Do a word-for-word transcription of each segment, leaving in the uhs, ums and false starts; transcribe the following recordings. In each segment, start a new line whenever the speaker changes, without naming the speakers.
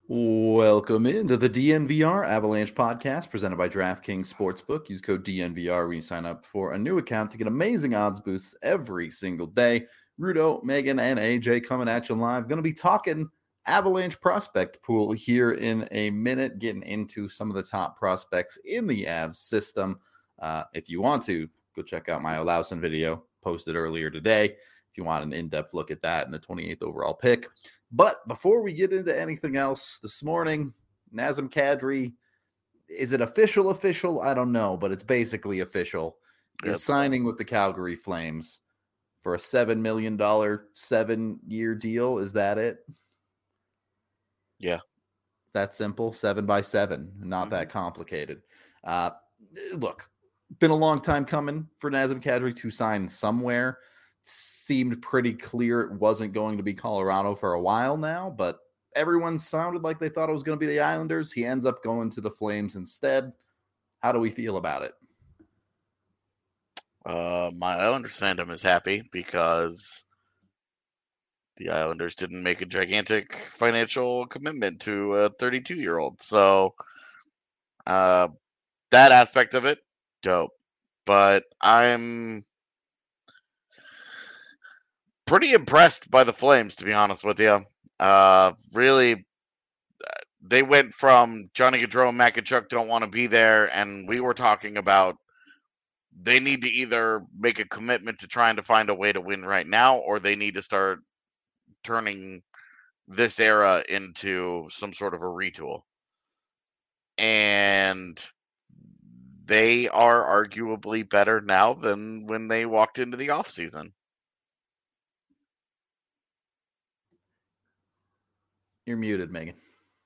Welcome into the D N V R Avalanche podcast presented by DraftKings Sportsbook. Use code D N V R when you sign up for a new account to get amazing odds boosts every single day. Rudo, Megan, and A J coming at you live. Going to be talking Avalanche prospect pool here in a minute, getting into some of the top prospects in the Avs system. Uh, if you want to, go check out my Olausen video posted earlier today if you want an in-depth look at that and the twenty-eighth overall pick. But before we get into anything else this morning, Nazem Kadri, is it official official? I don't know, but it's basically official. Is signing with the Calgary Flames for a seven million dollars seven-year deal. Is that it?
Yeah.
That simple, seven by seven, not mm-hmm. that complicated. Uh, look, been a long time coming for Nazem Kadri to sign somewhere. Seemed pretty clear it wasn't going to be Colorado for a while now, but everyone sounded like they thought it was going to be the Islanders. He ends up going to the Flames instead. How do we feel about it?
Uh, my Islanders fandom is happy because the Islanders didn't make a gigantic financial commitment to a thirty-two-year-old. So uh, that aspect of it, dope. But I'm pretty impressed by the Flames, to be honest with you. Uh, really, they went from Johnny Gaudreau and Matt Tkachuk don't want to be there, and we were talking about they need to either make a commitment to trying to find a way to win right now, or they need to start turning this era into some sort of a retool. And they are arguably better now than when they walked into the offseason.
You're muted, Megan.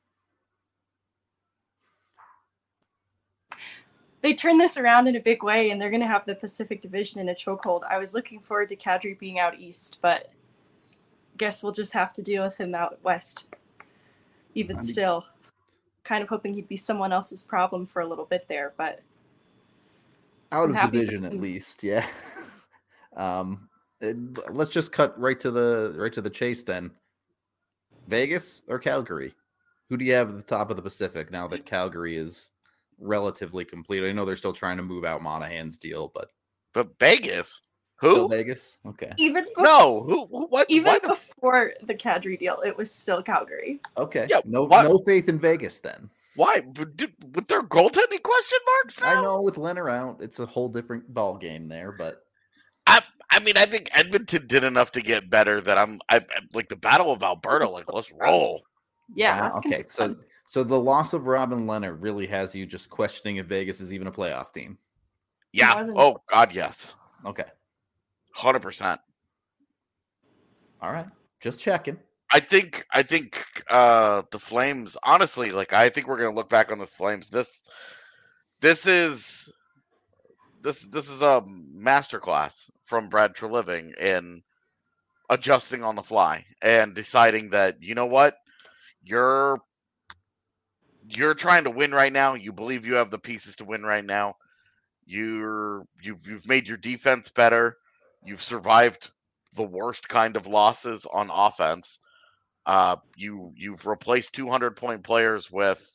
They turned this around in a big way, and they're going to have the Pacific Division in a chokehold. I was looking forward to Kadri being out east, but guess we'll just have to deal with him out west. Even I mean, still, kind of hoping he'd be someone else's problem for a little bit there, but
out of division at least, yeah. um, it, let's just cut right to the right to the chase then. Vegas or Calgary? Who do you have at the top of the Pacific now that Calgary is relatively complete? I know they're still trying to move out Monahan's deal, but
but Vegas, who?
Still Vegas? Okay.
Even
before, no, who? What?
Even
what?
before the Kadri deal, it was still Calgary.
Okay. Yeah. No, what? no faith in Vegas then.
Why? With their goaltending question marks now?
I know with Leonard out, it's a whole different ball game there, but
I. I mean, I think Edmonton did enough to get better that I'm, I like the Battle of Alberta. Like, let's roll.
Yeah.
Wow, okay. So, so the loss of Robin Leonard really has you just questioning if Vegas is even a playoff team.
Yeah. Oh God, yes.
Okay.
Hundred percent.
All right. Just checking.
I think. I think uh, the Flames. Honestly, like I think we're gonna look back on this Flames. This. This is. This this is a masterclass from Brad Treliving in adjusting on the fly and deciding that, you know what, you're you're trying to win right now. You believe you have the pieces to win right now. You're you've you've made your defense better. You've survived the worst kind of losses on offense. Uh, you you've replaced two hundred point players with,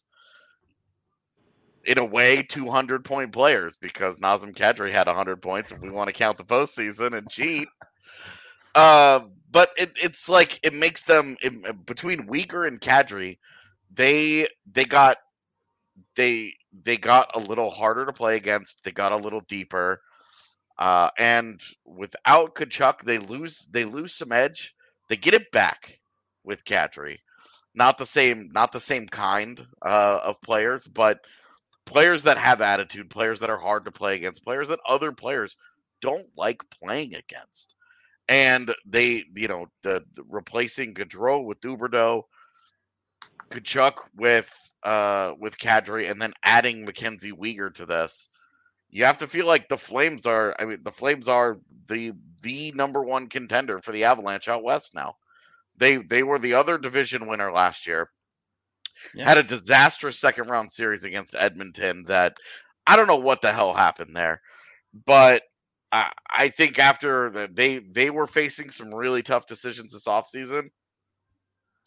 in a way, two hundred point players, because Nazem Kadri had one hundred points if we want to count the postseason and cheat. Uh, but it, it's like it makes them it, between Weegar and Kadri, they they got they they got a little harder to play against. They got a little deeper, uh, and without Tkachuk, they lose they lose some edge. They get it back with Kadri. Not the same, not the same kind uh, of players, but players that have attitude, players that are hard to play against, players that other players don't like playing against. And they, you know, the, the replacing Gaudreau with Huberdeau, Tkachuk with uh, with Kadri, and then adding Mackenzie Weegar to this, you have to feel like the Flames are. I mean, the Flames are the the number one contender for the Avalanche out west now. They they were the other division winner last year. Yeah. Had a disastrous second round series against Edmonton that I don't know what the hell happened there, but I, I think after the, they they were facing some really tough decisions this offseason,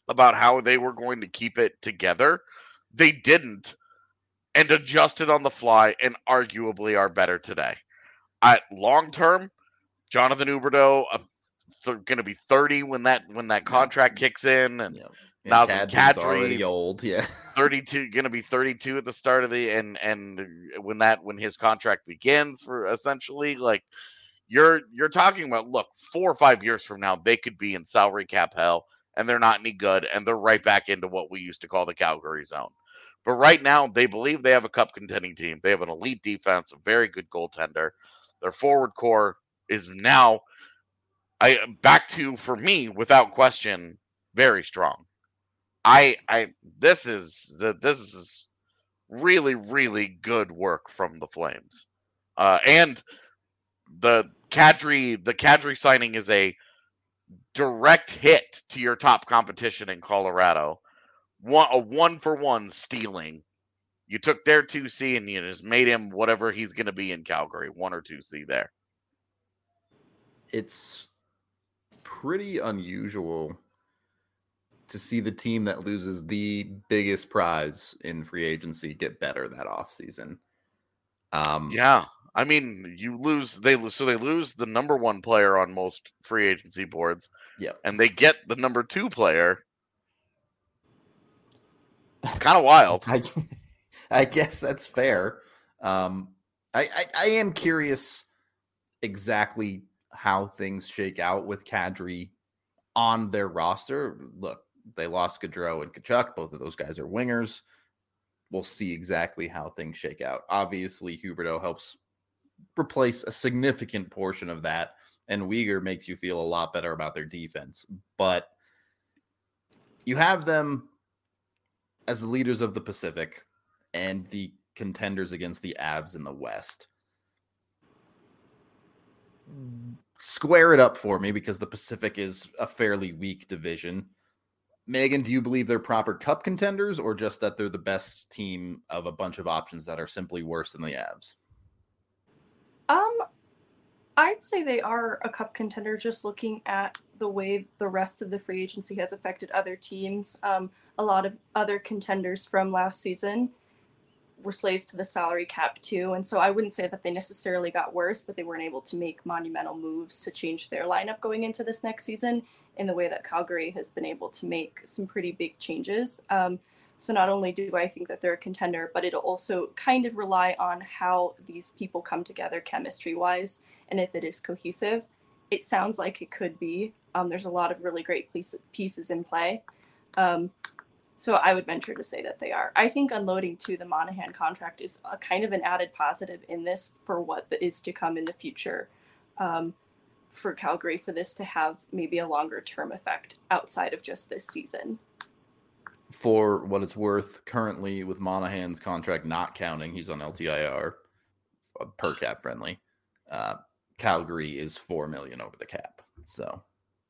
about how they were going to keep it together. They didn't, and adjusted on the fly, and arguably are better today. At long term, Jonathan Huberdeau uh, th- going to be thirty when that when that contract yeah. kicks in, and
yeah.
Nazem Kadri
already old, yeah,
thirty-two, going to be thirty-two at the start of the and and when that when his contract begins, for essentially like you're you're talking about, look, four or five years from now they could be in salary cap hell, and they're not any good, and they're right back into what we used to call the Calgary zone. But right now, they believe they have a cup contending team. They have an elite defense, a very good goaltender. Their forward core is now, I back to, for me, without question, very strong. I I this is the this is really really good work from the Flames, uh, and the Kadri the Kadri signing is a direct hit to your top competition in Colorado. One a one for one stealing. You took their two C and you just made him whatever he's going to be in Calgary, one or two C there.
It's pretty unusual to see the team that loses the biggest prize in free agency get better that offseason. Um,
yeah. I mean, you lose, they lose, so they lose the number one player on most free agency boards.
Yeah.
And they get the number two player. Kind of wild.
I, I guess that's fair. Um, I, I, I am curious exactly how things shake out with Kadri on their roster. Look, they lost Gaudreau and Tkachuk. Both of those guys are wingers. We'll see exactly how things shake out. Obviously, Huberdeau helps replace a significant portion of that, and Weegar makes you feel a lot better about their defense. But you have them as the leaders of the Pacific and the contenders against the Avs in the West. Square it up for me, because the Pacific is a fairly weak division. Megan, do you believe they're proper cup contenders, or just that they're the best team of a bunch of options that are simply worse than the Avs?
Um, I'd say they are a cup contender, just looking at the way the rest of the free agency has affected other teams. Um, a lot of other contenders from last season were slaves to the salary cap too, and so I wouldn't say that they necessarily got worse, but they weren't able to make monumental moves to change their lineup going into this next season in the way that Calgary has been able to make some pretty big changes. Um, so not only do I think that they're a contender, but it'll also kind of rely on how these people come together chemistry-wise, and if it is cohesive. It sounds like it could be. Um, there's a lot of really great pieces in play. Um, So I would venture to say that they are. I think unloading to the Monahan contract is a kind of an added positive in this for what is to come in the future, um, for Calgary, for this to have maybe a longer term effect outside of just this season.
For what it's worth, currently with Monahan's contract not counting, he's on L T I R, per cap friendly. Uh, Calgary is four million over the cap, so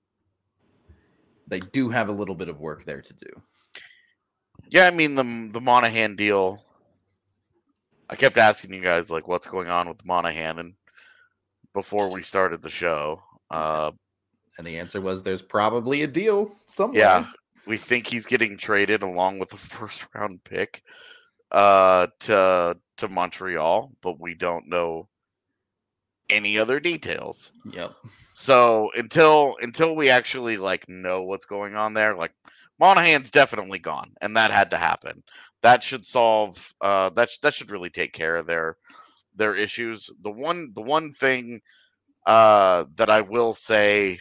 they do have a little bit of work there to do.
Yeah, I mean, the the Monahan deal, I kept asking you guys, like, what's going on with Monahan, and before we started the show. Uh,
and the answer was there's probably a deal somewhere.
Yeah, we think he's getting traded along with the first-round pick uh, to to Montreal, but we don't know any other details.
Yep.
So until until we actually, like, know what's going on there, like, Monahan's definitely gone, and that had to happen. That should solve. Uh, that sh- that should really take care of their their issues. The one the one thing uh, that I will say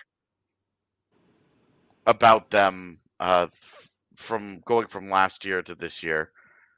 about them, uh, f- from going from last year to this year,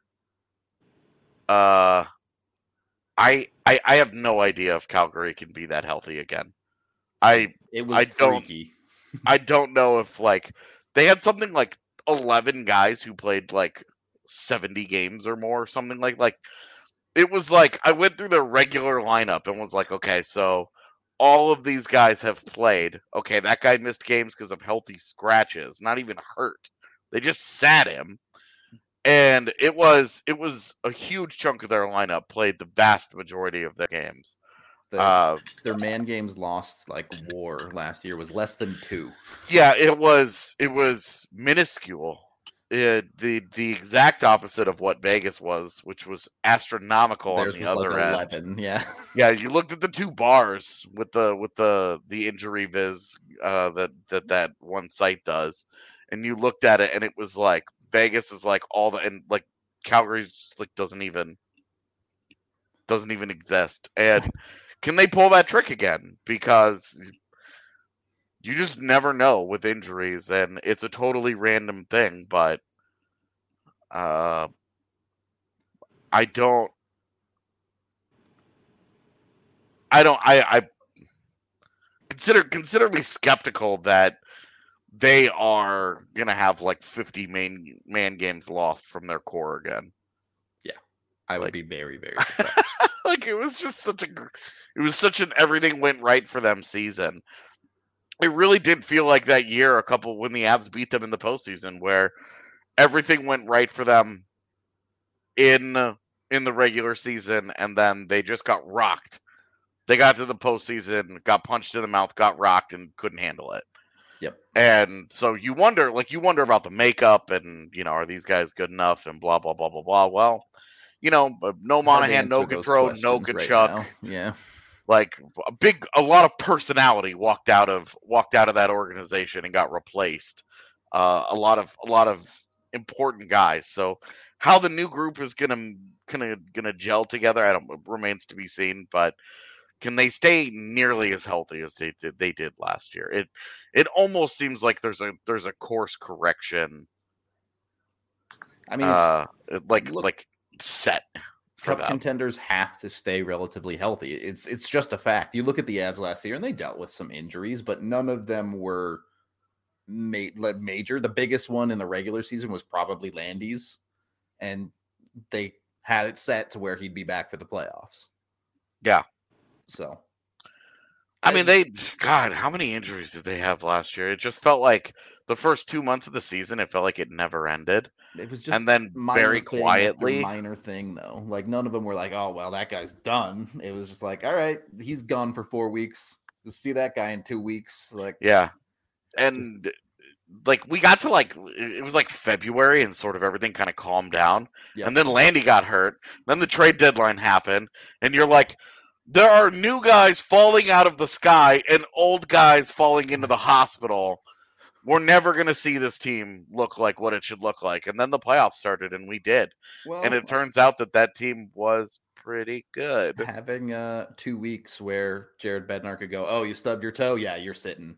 uh, I, I I have no idea if Calgary can be that healthy again. I
it was
I don't
freaky.
I don't know if, like, they had something like eleven guys who played like seventy games or more, or something like like it was like I went through their regular lineup and was like, okay, so all of these guys have played. Okay, that guy missed games because of healthy scratches, not even hurt. They just sat him. And it was it was a huge chunk of their lineup played the vast majority of their games.
The,
Uh,
their man games lost like war last year was less than two.
yeah, it was it was minuscule. It, the the exact opposite of what Vegas was, which was astronomical
Theirs
on the
was
other
like
end.
eleven, yeah.
Yeah, you looked at the two bars with the with the the injury viz uh, that that that one site does, and you looked at it, and it was like Vegas is like all the and like Calgary's like doesn't even doesn't even exist. And can they pull that trick again? Because you just never know with injuries, and it's a totally random thing. But uh, I don't. I don't. I, I consider consider me skeptical that they are gonna have like fifty main man games lost from their core again.
Yeah, I would
Like-
be very very surprised.
Like it was just such a, gr- it was such an everything went right for them season. It really did feel like that year, a couple when the Avs beat them in the postseason, where everything went right for them in in the regular season, and then they just got rocked. They got to the postseason, got punched in the mouth, got rocked, and couldn't handle it.
Yep.
And so you wonder, like you wonder about the makeup, and you know, are these guys good enough, and blah blah blah blah blah. Well, you know, no
Hard to
Monahan, no
answer those
Gaudreau, no
questions right
Kachuk.
now. Yeah.
Like a big, a lot of personality walked out of walked out of that organization and got replaced. Uh, a lot of a lot of important guys. So how the new group is gonna gonna gonna gel together, I don't remains to be seen. But can they stay nearly as healthy as they did they did last year? It it almost seems like there's a there's a course correction.
I mean, it's,
Uh, like
look-
like set for
cup
them.
contenders have to stay relatively healthy. It's it's just a fact. You look at the Avs last year, and they dealt with some injuries, but none of them were ma- like, major. The biggest one in the regular season was probably Landy's, and they had it set to where he'd be back for the playoffs.
Yeah.
So,
I mean, they, God, how many injuries did they have last year? It just felt like the first two months of the season, it felt like it never ended.
it was just
And then
minor
very
thing after
quietly,
minor thing though. Like none of them were like, oh well, that guy's done. It was just like, all right, he's gone for four weeks. We'll see that guy in two weeks. Like,
yeah. And like we got to like, it was like February and sort of everything kind of calmed down.
Yep.
And then Landy got hurt. Then the trade deadline happened. And you're like, there are new guys falling out of the sky and old guys falling into the hospital. We're never going to see this team look like what it should look like. And then the playoffs started, and we did.
well,
And it turns out that that team was pretty good.
having uh two weeks where Jared Bednar could go, oh, you stubbed your toe? Yeah, you're sitting.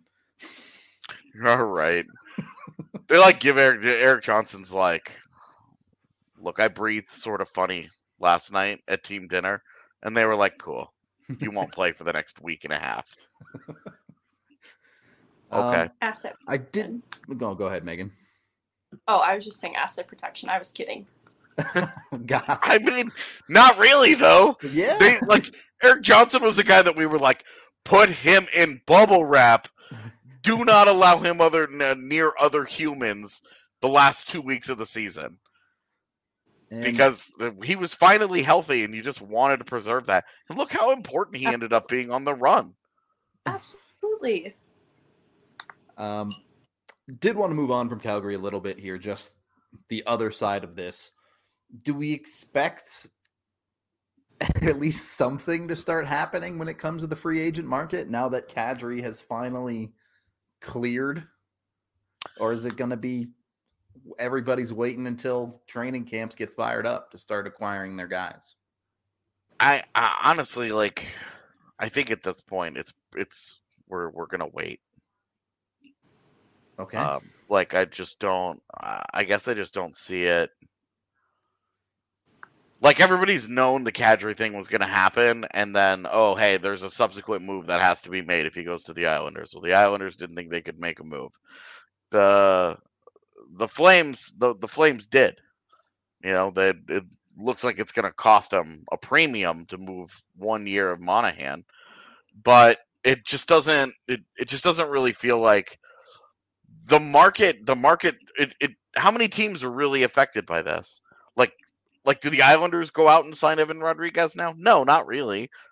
All right. They like give Eric Eric Johnson's like, look, I breathed sort of funny last night at team dinner. And they were like, cool. You won't play for the next week and a half. Okay.
Um,
Asset.
I did go go ahead, Megan.
Oh, I was just saying asset protection. I was kidding.
God.
I mean, not really, though.
Yeah.
They like Eric Johnson was the guy that we were like, put him in bubble wrap. Do not allow him other n- near other humans the last two weeks of the season
And
because he was finally healthy, and you just wanted to preserve that. And look how important he ended up being on the run.
Absolutely.
Um, did want to move on from Calgary a little bit here, just the other side of this. Do we expect at least something to start happening when it comes to the free agent market now that Kadri has finally cleared? Or is it going to be everybody's waiting until training camps get fired up to start acquiring their guys?
I, I honestly like. I think at this point, it's it's we're we're gonna wait.
Okay.
Um, like I just don't. I I guess I just don't see it. Like everybody's known the Kadri thing was going to happen, and then oh hey, there's a subsequent move that has to be made if he goes to the Islanders. Well, the Islanders didn't think they could make a move. The the Flames the the Flames did. You know that it looks like it's going to cost them a premium to move one year of Monahan, but it just doesn't. It it just doesn't really feel like. The market, the market, it, it. How many teams are really affected by this? Like, like, do the Islanders go out and sign Evan Rodriguez now? No, not really.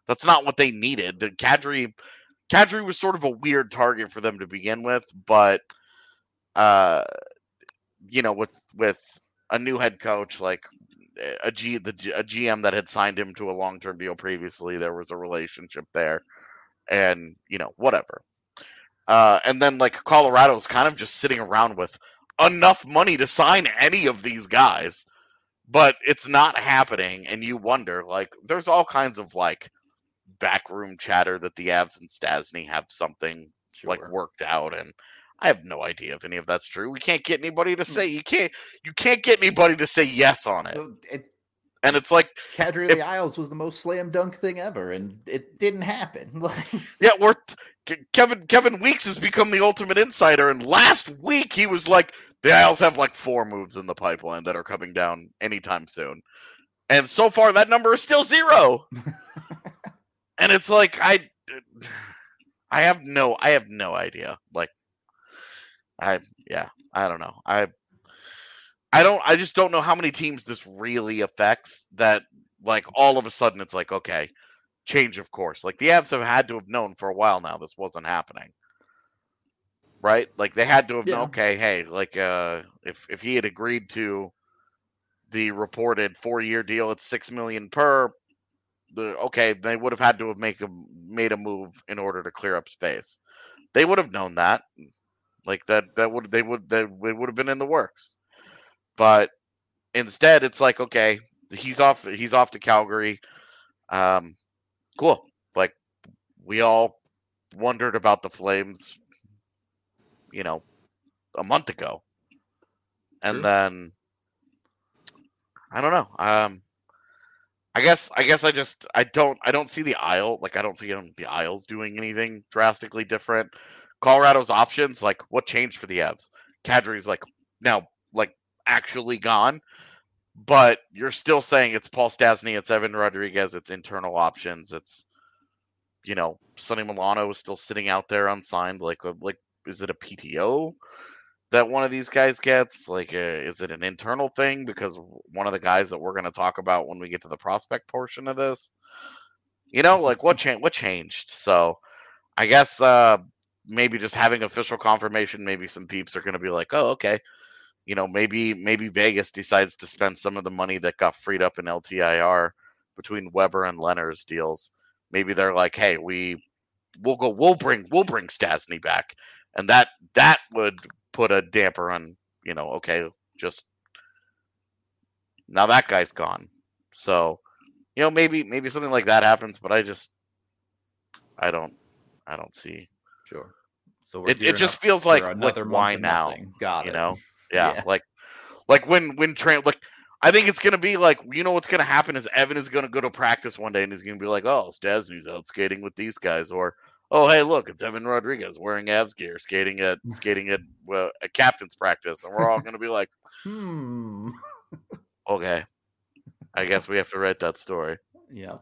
That's not what they needed. The Kadri, Kadri was sort of a weird target for them to begin with, but uh, you know, with with a new head coach, like a G the a G M that had signed him to a long term deal previously, there was a relationship there, and you know, whatever. Uh, and then like Colorado's kind of just sitting around with enough money to sign any of these guys, but it's not happening, and you wonder, like, there's all kinds of like backroom chatter that the Avs and Stastny have something
Sure.
like worked out, and I have no idea if any of that's true. We can't get anybody to say you can't you can't get anybody to say yes on it.
So it
And it's like
Kadri
if-
Isles was the most slam dunk thing ever, and it didn't happen.
yeah, we're Kevin Kevin Weeks has become the ultimate insider, and last week he was like, the Isles have like four moves in the pipeline that are coming down anytime soon. And so far that number is still zero. And it's like I I have no I have no idea. Like I yeah, I don't know. I I don't I just don't know how many teams this really affects, that like all of a sudden it's like, okay, change of course. Like the Avs have had to have known for a while now this wasn't happening. Right? Like they had to have
Yeah.
known, okay, hey, like uh if if he had agreed to the reported four-year deal at six million per, the okay, they would have had to have make a made a move in order to clear up space. They would have known that. Like that that would they would that it would have been in the works. But instead it's like, okay, he's off he's off to Calgary. Um cool. Like we all wondered about the Flames, you know, a month ago. And
True.
then I don't know. Um I guess I guess I just I don't I don't see the Isle like I don't see um, the Isles doing anything drastically different. Colorado's options, like what changed for the Avs? Kadri's like now like actually gone, but you're still saying it's Paul Stastny, it's Evan Rodriguez, it's internal options, it's you know Sonny Milano is still sitting out there unsigned. Like like is it a P T O that one of these guys gets? Like, uh, is it an internal thing? Because one of the guys that we're going to talk about when we get to the prospect portion of this, you know, like what changed? What changed? So, I guess uh, maybe just having official confirmation. Maybe some peeps are going to be like, "Oh, okay." You know, maybe maybe Vegas decides to spend some of the money that got freed up in L T I R between Weber and Leonard's deals. Maybe they're like, "Hey, we we'll go. We'll bring we'll bring Stastny back," and that that would put a damper on, you know, okay, just now that guy's gone. So, you know, maybe maybe something like that happens, but I just I don't I don't see.
Sure. So we're
It it
gearing
just
up
feels
for
like like
another month
why
of
now?
nothing. Got
You
it.
know? Yeah,
Yeah.
like like when when train like I think it's gonna be like, you know what's gonna happen is Evan is gonna go to practice one day and he's gonna be like, oh, Stastny's out skating with these guys, or oh, hey, look, it's Evan Rodriguez wearing Avs gear, skating at skating at well, a captain's practice, and we're all gonna be like,
Hmm.
okay, I guess we have to write that story.
Yeah.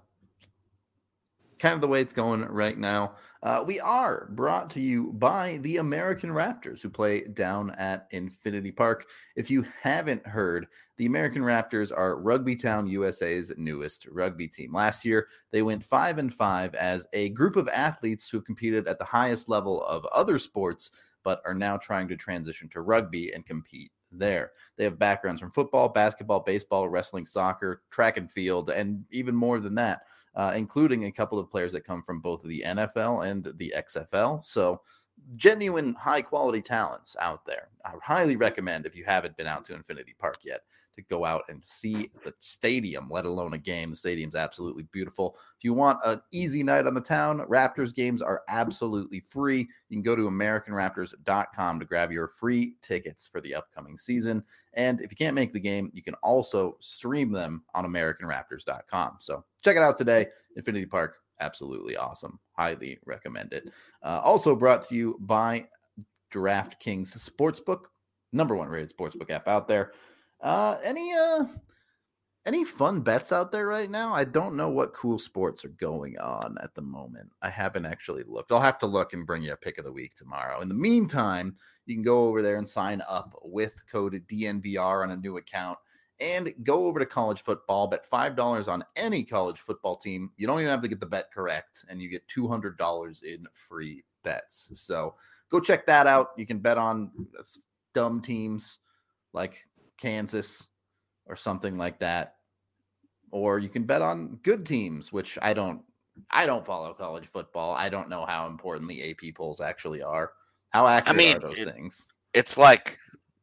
Kind of the way it's going right now. Uh, we are brought to you by the American Raptors, who play down at Infinity Park. If you haven't heard, the American Raptors are Rugby Town U S A's newest rugby team. Last year, they went five and five as a group of athletes who have competed at the highest level of other sports, but are now trying to transition to rugby and compete there. They have backgrounds from football, basketball, baseball, wrestling, soccer, track and field, and even more than that. Uh, including a couple of players that come from both the N F L and the X F L. So genuine high-quality talents out there. I highly recommend, if you haven't been out to Infinity Park yet, to go out and see the stadium, let alone a game. The stadium's absolutely beautiful. If you want an easy night on the town, Raptors games are absolutely free. You can go to American Raptors dot com to grab your free tickets for the upcoming season. And if you can't make the game, you can also stream them on American Raptors dot com. So check it out today. Infinity Park, absolutely awesome. Highly recommend it. Uh, also brought to you by DraftKings Sportsbook, number one rated sportsbook app out there. Uh, any uh, any fun bets out there right now? I don't know what cool sports are going on at the moment. I haven't actually looked. I'll have to look and bring you a pick of the week tomorrow. In the meantime, you can go over there and sign up with code D N V R on a new account And go over to college football, bet five dollars on any college football team. You don't even have to get the bet correct, and you get two hundred dollars in free bets. So go check that out. You can bet on dumb teams like Kansas or something like that. Or you can bet on good teams, which I don't I don't follow college football. I don't know how important the A P polls actually are. How accurate
I mean,
are those
it,
things?
It's like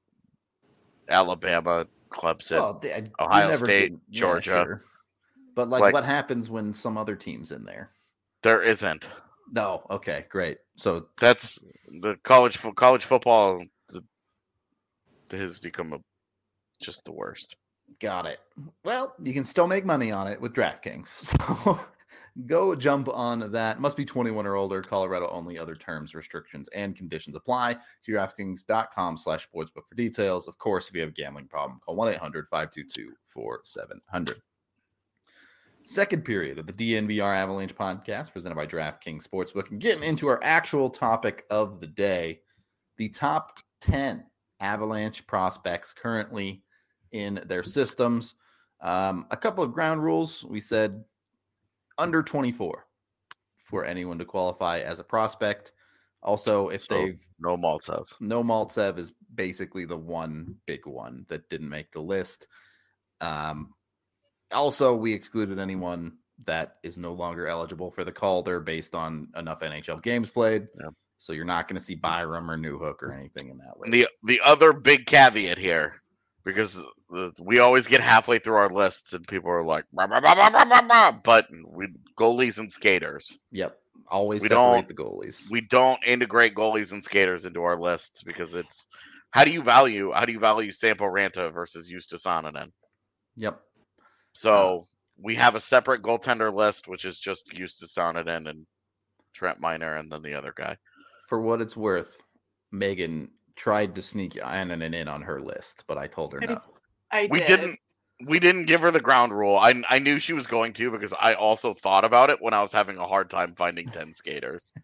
Alabama, Clemson,
Well, they,
Ohio State,
get, yeah,
Georgia.
Sure. But like,
like,
what happens when some other team's in there?
There isn't.
No. Okay, great. So
that's the college college football the, has become a, just the worst.
Got it. Well, you can still make money on it with DraftKings. So go jump on that. Must be twenty-one or older. Colorado only. Other terms, restrictions, and conditions apply. To DraftKings.com slash sportsbook for details. Of course, if you have a gambling problem, call one eight hundred five two two four seven zero zero. Second period of the D N V R Avalanche podcast presented by DraftKings Sportsbook. And getting into our actual topic of the day, the top ten Avalanche prospects currently in their systems. Um, a couple of ground rules. We said under twenty-four for anyone to qualify as a prospect. Also, if
so,
they've
no Maltsev.
No Maltsev is basically the one big one that didn't make the list. Um, also, we excluded anyone that is no longer eligible for the Calder based on enough N H L games played.
Yeah.
So you're not going to see Byram or Newhook or anything in that list.
The the other big caveat here, because the, we always get halfway through our lists and people are like, bah, bah, bah, bah, bah, bah, bah, but we goalies and skaters.
Yep, always
we
separate
don't,
the goalies.
We don't integrate goalies and skaters into our lists because it's how do you value how do you value Sampo Ranta versus Justus Anonen?
Yep.
So uh, we have a separate goaltender list, which is just Justus Anonen and Trent Miner, and then the other guy.
For what it's worth, Megan tried to sneak Anonen in on her list, but I told her no.
I
we
did.
didn't. We didn't give her the ground rule. I I knew she was going to because I also thought about it when I was having a hard time finding ten skaters.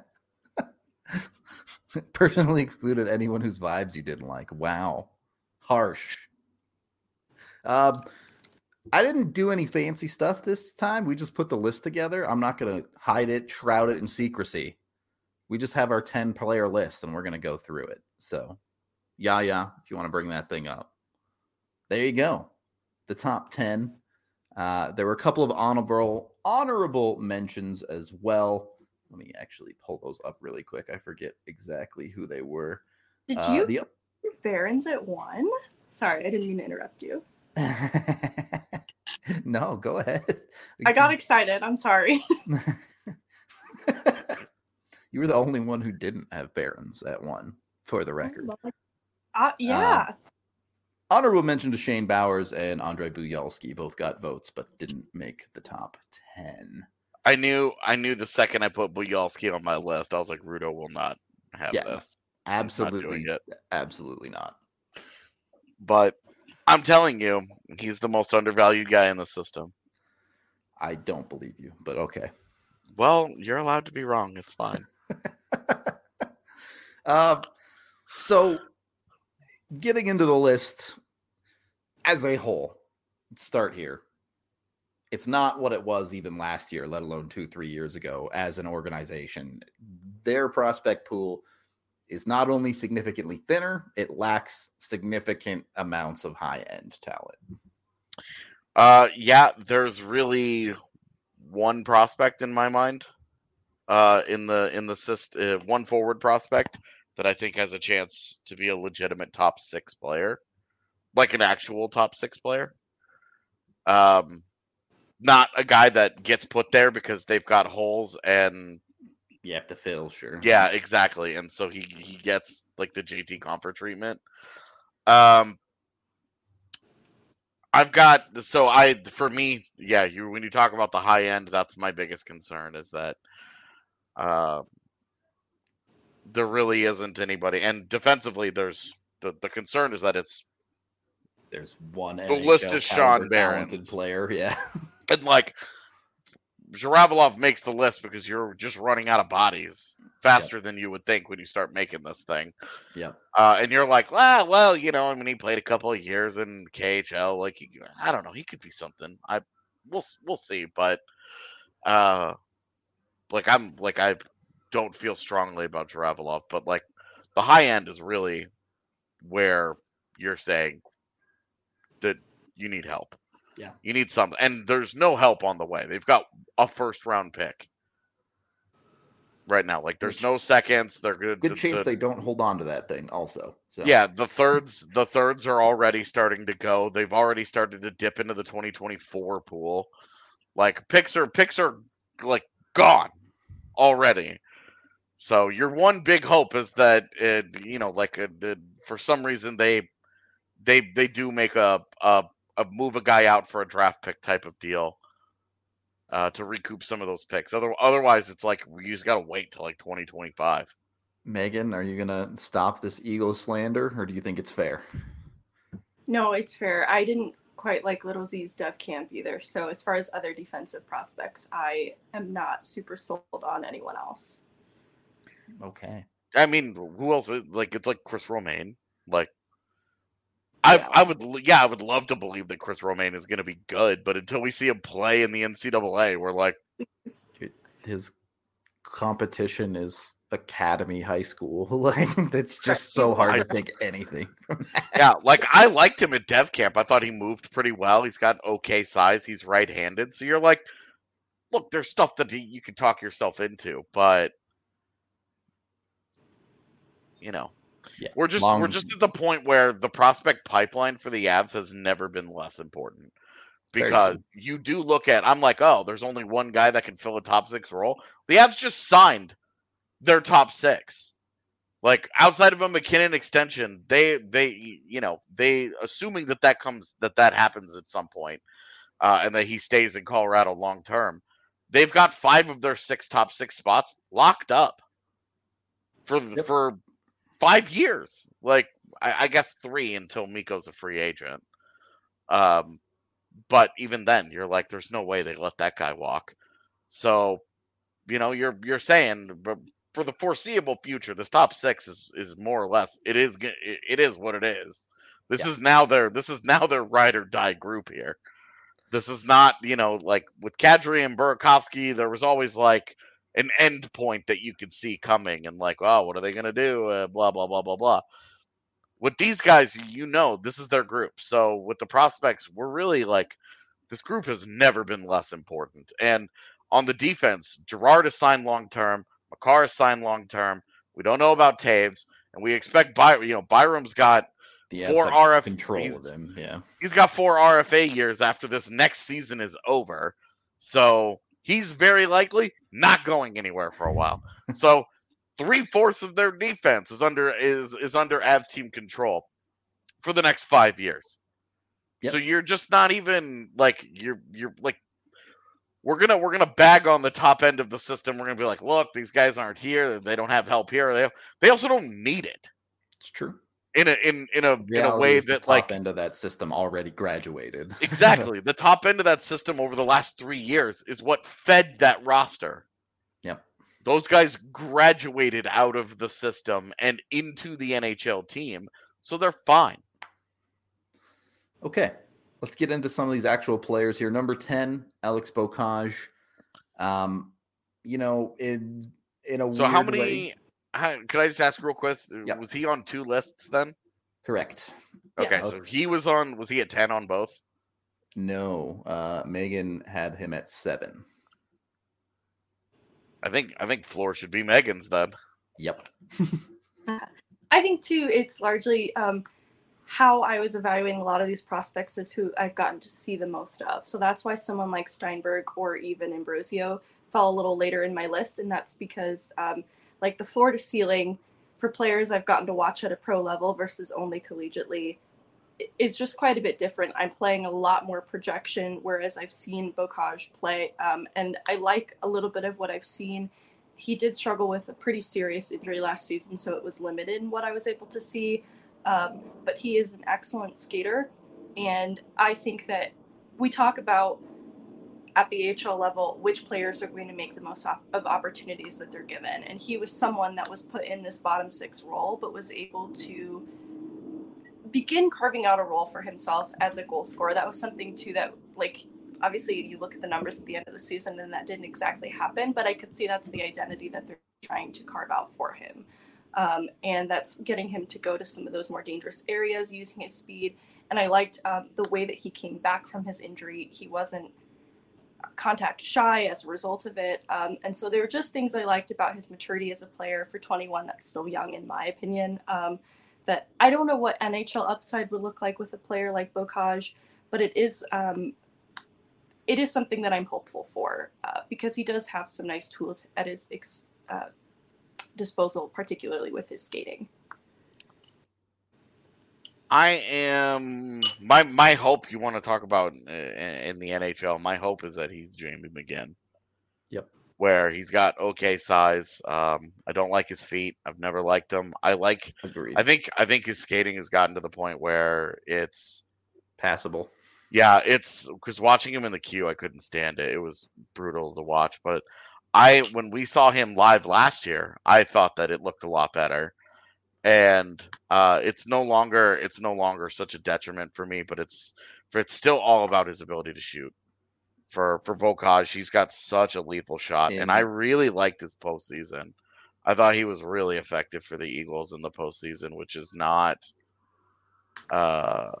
Personally excluded anyone whose vibes you didn't like. Wow, harsh. Um. I didn't do any fancy stuff this time. We just put the list together. I'm not going to hide it, shroud it in secrecy. We just have our ten player list and we're going to go through it. So, yeah, yeah, if you want to bring that thing up. There you go. The top ten. Uh, there were a couple of honorable honorable mentions as well. Let me actually pull those up really quick. I forget exactly who they were.
Did
uh,
you
the
Barons at one? Sorry, I didn't mean to interrupt you.
No, go ahead.
I got excited. I'm sorry.
You were the only one who didn't have Barons at one, for the record.
Uh, yeah.
Um, honorable mention to Shane Bowers and Andrei Buyalski. Both got votes, but didn't make the top ten.
I knew I knew the second I put Buyalski on my list, I was like, Rudo will not have
yeah,
this.
Absolutely. Not absolutely not.
But I'm telling you, he's the most undervalued guy in the system.
I don't believe you, but okay.
Well, you're allowed to be wrong. It's fine.
uh, so, getting into the list as a whole, let's start here. It's not what it was even last year, let alone two, three years ago as an organization. Their prospect pool is not only significantly thinner, it lacks significant amounts of high-end talent.
Uh, yeah, there's really one prospect in my mind. Uh, in the in the system, uh, one forward prospect that I think has a chance to be a legitimate top six player, like an actual top six player. Um, not a guy that gets put there because they've got holes and
you have to fill, sure.
Yeah, exactly. And so he, he gets like the J T Compher treatment. Um, I've got so I for me, yeah. You when you talk about the high end, that's my biggest concern is that uh, there really isn't anybody. And defensively, there's the, the concern is that it's
there's one
the N H L list is Sean Barron's
player, yeah.
And like Zhiravalov makes the list because you're just running out of bodies faster yep. than you would think when you start making this thing.
Yeah.
Uh, and you're like, well, well, you know, I mean, he played a couple of years in K H L. Like, he, I don't know, he could be something. I, we'll, we'll see. But, uh, like, I'm like, I don't feel strongly about Zhiravalov, but like, the high end is really where you're saying that you need help.
Yeah.
You need something. And there's no help on the way. They've got a first round pick right now. Like, there's Which, no seconds. They're good.
Good
the,
chance
the,
they don't hold on to that thing also. So
yeah, the thirds, the thirds are already starting to go. They've already started to dip into the twenty twenty-four pool. Like, picks are picks are like gone already. So your one big hope is that it, you know, like a, a, for some reason they they they do make a, a a move a guy out for a draft pick type of deal uh, to recoup some of those picks. Other, otherwise, it's like you just got to wait till like twenty twenty-five.
Megan, are you gonna stop this Eagle slander, or do you think it's fair?
No, it's fair. I didn't quite like Little Z's dev camp either. So as far as other defensive prospects, I am not super sold on anyone else.
Okay.
I mean, who else? Is, like, it's like Chris Romaine. Like, I yeah. I would yeah I would love to believe that Chris Romaine is going to be good, but until we see him play in the N C double A, we're like,
his competition is Academy High School. Like, it's just so hard to take anything from that.
Yeah, like I liked him at Dev Camp. I thought he moved pretty well. He's got okay size. He's right-handed, so you're like, look, there's stuff that he, you can talk yourself into, but you know.
Yeah,
we're just
long...
we're just at the point where the prospect pipeline for the Avs has never been less important, because you do look at, I'm like, oh, there's only one guy that can fill a top six role. The Avs just signed their top six. Like, outside of a McKinnon extension, they they you know they assuming that that comes that that happens at some point, uh, and that he stays in Colorado long term. They've got five of their six top six spots locked up for yep. for. Five years, like I, I guess three until Mikko's a free agent. Um, but even then, you're like, there's no way they let that guy walk. So, you know, you're you're saying, but for the foreseeable future, this top six is is more or less it is it, it is what it is. This yeah. is now their this is now their ride or die group here. This is not, you know, like with Kadri and Burakovsky, there was always like an end point that you could see coming and like, oh, what are they going to do? Uh, blah, blah, blah, blah, blah. With these guys, you know, this is their group. So with the prospects, we're really like, this group has never been less important. And on the defense, Girard is signed long-term. Makar is signed long-term. We don't know about Taves. And we expect, By- you know, Byram's got
the
four R F A.
Control of him, yeah.
He's got four R F A years after this next season is over. So he's very likely not going anywhere for a while. So three-fourths of their defense is under is is under Avs team control for the next five years. Yep. So you're just not even like you're you're like we're gonna we're gonna bag on the top end of the system. We're gonna be like, look, these guys aren't here. They don't have help here. They they also don't need it.
It's true.
In a in in a
Reality
in a way
is
that
the top
like
end of that system already graduated.
Exactly. The top end of that system over the last three years is what fed that roster.
Yep.
Those guys graduated out of the system and into the N H L team, so they're fine.
Okay. Let's get into some of these actual players here. Number ten, Alex Beaucage. Um, you know, in in a
so
weird
how many
way,
How, could I just ask real quick?
Yep.
Was he on two lists then?
Correct.
Okay,
Yes.
so he was on. Was he at ten on both?
No, uh, Megan had him at seven.
I think I think floor should be Megan's then.
Yep.
I think too. It's largely um, how I was evaluating a lot of these prospects is who I've gotten to see the most of. So that's why someone like Steinberg or even Ambrosio fell a little later in my list, and that's because. Um, Like the floor to ceiling for players I've gotten to watch at a pro level versus only collegiately is just quite a bit different. I'm playing a lot more projection, whereas I've seen Beaucage play. Um, and I like a little bit of what I've seen. He did struggle with a pretty serious injury last season, so it was limited in what I was able to see. Um, but he is an excellent skater. And I think that we talk about at the A H L level, which players are going to make the most op- of opportunities that they're given. And he was someone that was put in this bottom six role, but was able to begin carving out a role for himself as a goal scorer. That was something too that, like, obviously you look at the numbers at the end of the season and that didn't exactly happen, but I could see that's the identity that they're trying to carve out for him. Um, and that's getting him to go to some of those more dangerous areas, using his speed. And I liked um, the way that he came back from his injury. He wasn't contact shy as a result of it. Um, and so there were just things I liked about his maturity as a player for twenty-one. That's still young, in my opinion. Um, that I don't know what N H L upside would look like with a player like Bocage, but it is um, it is something that I'm hopeful for uh, because he does have some nice tools at his ex- uh, disposal, particularly with his skating.
I am my my hope you want to talk about in, in the N H L. My hope is that he's Jamie McGinn.
Yep.
Where he's got okay size. Um, I don't like his feet. I've never liked him. I like.
Agreed.
I think I think his skating has gotten to the point where it's
passable.
Yeah, it's because watching him in the queue, I couldn't stand it. It was brutal to watch. But I, when we saw him live last year, I thought that it looked a lot better. And uh, it's no longer it's no longer such a detriment for me, but it's for it's still all about his ability to shoot. For for Bocage, he's got such a lethal shot,
In,
and I really liked his postseason. I thought he was really effective for the Eagles in the postseason, which is not, uh,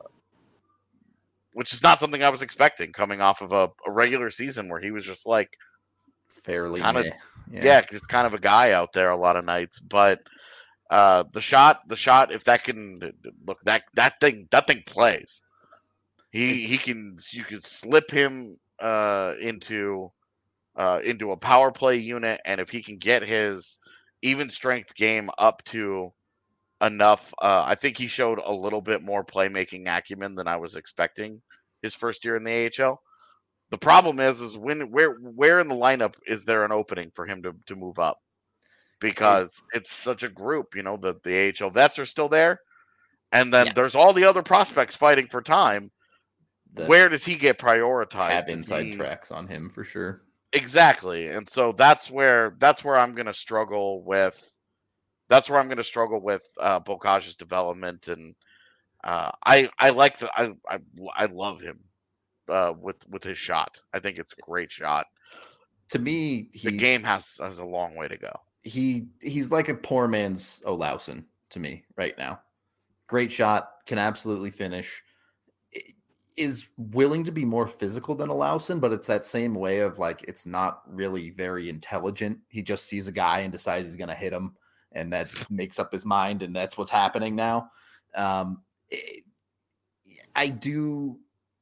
which is not something I was expecting coming off of a, a regular season where he was just like
fairly
kind of
yeah.
yeah, just kind of a guy out there a lot of nights, but. Uh, the shot, the shot. If that can look, that that thing, that thing plays. He
It's,
he can. You can slip him uh, into uh, into a power play unit, and if he can get his even strength game up to enough, uh, I think he showed a little bit more playmaking acumen than I was expecting his first year in the A H L. The problem is, is when where where in the lineup is there an opening for him to to move up? Because it's such a group, you know, the, the A H L vets are still there. And then
yeah.
there's all the other prospects fighting for time. The Where does he get prioritized?
Have inside
he...
tracks on him for sure.
Exactly. And so that's where that's where I'm gonna struggle with that's where I'm gonna struggle with uh Bocage's development. And uh I I like the I I, I love him uh with, with his shot. I think it's a great shot.
To me, he,
the game has has a long way to go.
He he's like a poor man's Olausson to me right now. Great shot, can absolutely finish. Is willing to be more physical than Olausson, but it's that same way of like it's not really very intelligent. He just sees a guy and decides he's going to hit him, and that makes up his mind, and that's what's happening now. Um, it, I do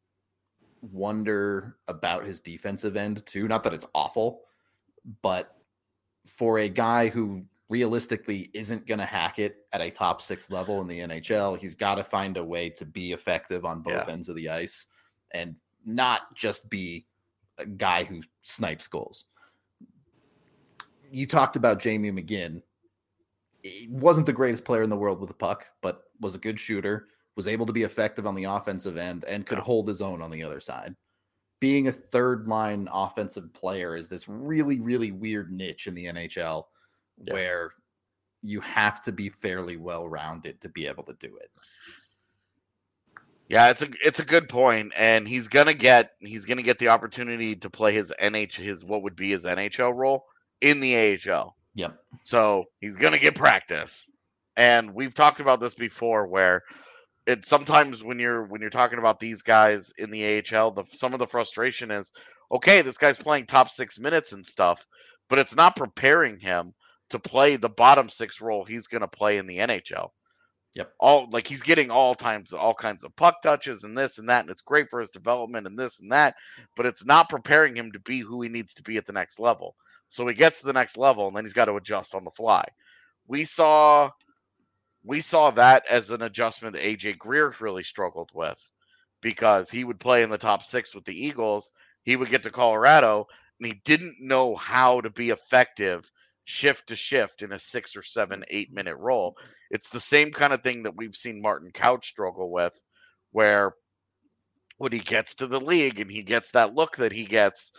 wonder about his defensive end too. Not that it's awful, but for a guy who realistically isn't going to hack it at a top six level in the N H L, he's got to find a way to be effective on both yeah. ends of the ice and not just be a guy who snipes goals. You talked about Jamie McGinn. He wasn't the greatest player in the world with the puck, but was a good shooter, was able to be effective on the offensive end, and could hold his own on the other side. Being a third line offensive player is this really, really weird niche in the N H L yeah. where you have to be fairly well-rounded to be able to do it.
Yeah, it's a it's a good point, and he's gonna get he's gonna get the opportunity to play his N H his what would be his N H L role in the A H L.
Yep.
So he's gonna get practice, and we've talked about this before, where it sometimes when you're when you're talking about these guys in the A H L, the some of the frustration is, okay, this guy's playing top six minutes and stuff, but it's not preparing him to play the bottom six role he's going to play in the N H L.
Yep.
All like he's getting all times all kinds of puck touches and this and that, and it's great for his development and this and that, but it's not preparing him to be who he needs to be at the next level. So he gets to the next level, and then he's got to adjust on the fly. We saw. We saw that as an adjustment that A J Greer really struggled with, because he would play in the top six with the Eagles. He would get to Colorado, and he didn't know how to be effective shift to shift in a six or seven, eight minute role. It's the same kind of thing that we've seen Martin Couch struggle with, where when he gets to the league and he gets that look that he gets,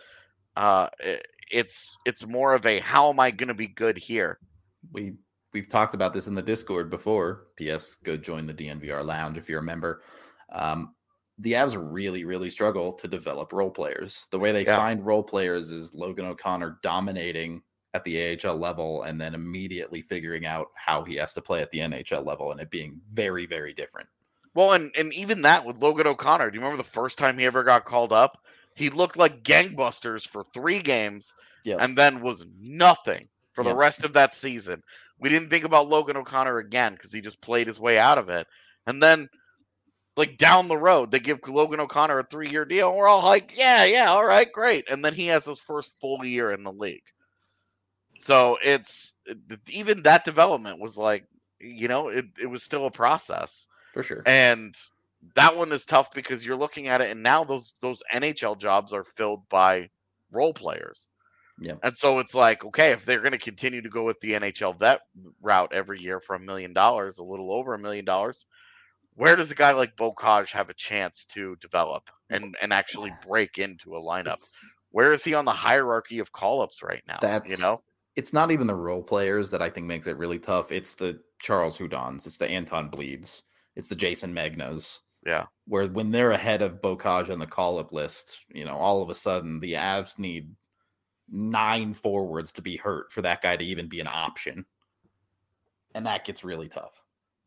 Uh, it, it's it's more of a how am I going to be good here?
We we've talked about this in the Discord before. P S. Go join the D N V R Lounge if you're a member. Um, the Avs really, really struggle to develop role players. The way they
Yeah.
find role players is Logan O'Connor dominating at the A H L level and then immediately figuring out how he has to play at the N H L level and it being very, very different.
Well, and, and even that with Logan O'Connor, do you remember the first time he ever got called up? He looked like gangbusters for three games
Yep.
and then was nothing for the
Yep.
rest of that season. We didn't think about Logan O'Connor again because he just played his way out of it. And then, like, down the road, they give Logan O'Connor a three-year deal, and we're all like, yeah, yeah, all right, great. And then he has his first full year in the league. So it's even that development was like, you know, it, it was still a process.
For sure.
And that one is tough because you're looking at it, and now those those N H L jobs are filled by role players.
Yeah.
And so it's like, okay, if they're going to continue to go with the N H L vet route every year for a million dollars, a little over a million dollars, where does a guy like Bocage have a chance to develop and, and actually break into a lineup?
It's,
Where is he on the hierarchy of call-ups right now?
That's,
you know,
it's not even the role players that I think makes it really tough. It's the Charles Houdons. It's the Anton Bleeds. It's the Jason Magnas.
Yeah.
Where when they're ahead of Bocage on the call-up list, you know, all of a sudden the Avs need nine forwards to be hurt for that guy to even be an option. And that gets really tough.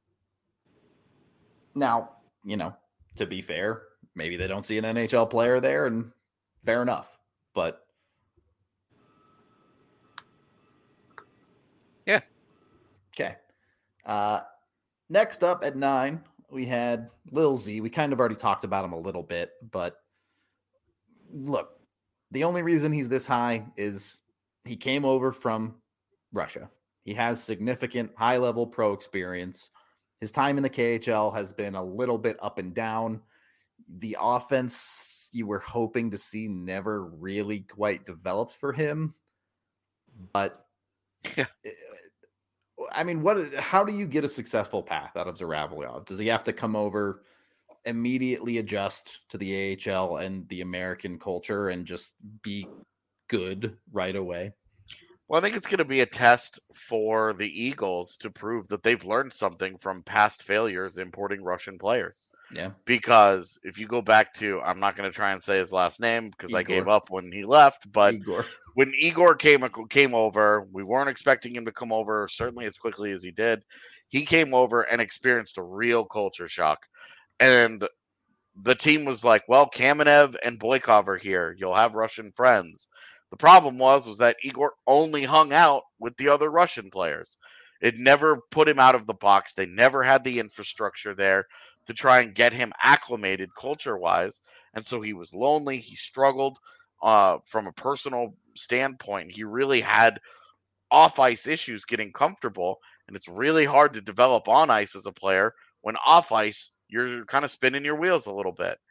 Now, you know, to be fair, maybe they don't see an N H L player there, and fair enough. But
yeah.
Okay. Uh, next up at nine, we had Lil Z. We kind of already talked about him a little bit, but look, the only reason he's this high is he came over from Russia. He has significant high-level pro experience. His time in the K H L has been a little bit up and down. The offense you were hoping to see never really quite developed for him. But,
Yeah.
I mean, what? How do you get a successful path out of Zhuravlyov? Does he have to come over, immediately adjust to the A H L and the American culture and just be good right away?
Well, I think it's going to be a test for the Eagles to prove that they've learned something from past failures importing Russian players.
Yeah.
Because if you go back to, I'm not going to try and say his last name because
Igor.
I gave up when he left, but
Igor.
when Igor came came over, we weren't expecting him to come over certainly as quickly as he did. He came over and experienced a real culture shock. And the team was like, well, Kamenev and Boykov are here. You'll have Russian friends. The problem was, was that Igor only hung out with the other Russian players. It never put him out of the box. They never had the infrastructure there to try and get him acclimated culture-wise. And so he was lonely. He struggled uh, from a personal standpoint. He really had off-ice issues getting comfortable. And it's really hard to develop on ice as a player when off-ice you're kind of spinning your wheels a little bit.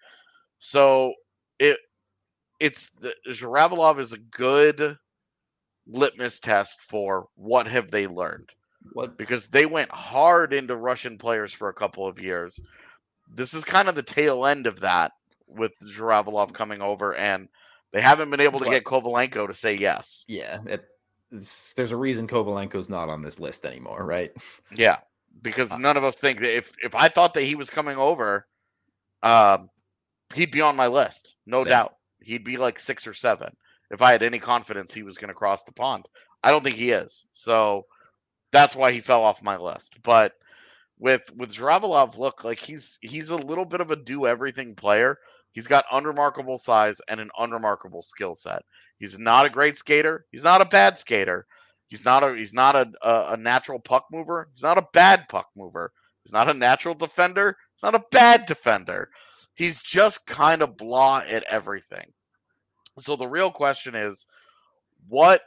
So it it's the Zhuravlyov is a good litmus test for what have they learned.
What?
Because they went hard into Russian players for a couple of years. This is kind of the tail end of that with Zhuravlyov coming over, and they haven't been able to
What?
get Kovalenko to say yes.
Yeah. It, there's a reason Kovalenko's not on this list anymore, right?
Yeah. Because none of us think that if, if I thought that he was coming over, um, he'd be on my list. No
Same.
doubt. He'd be like six or seven if I had any confidence he was going to cross the pond. I don't think he is. So that's why he fell off my list. But with with Zhuravlyov, look, like he's he's a little bit of a do-everything player. He's got unremarkable size and an unremarkable skill set. He's not a great skater. He's not a bad skater. He's not a he's not a, a, a natural puck mover. He's not a bad puck mover. He's not a natural defender. He's not a bad defender. He's just kind of blah at everything. So the real question is, what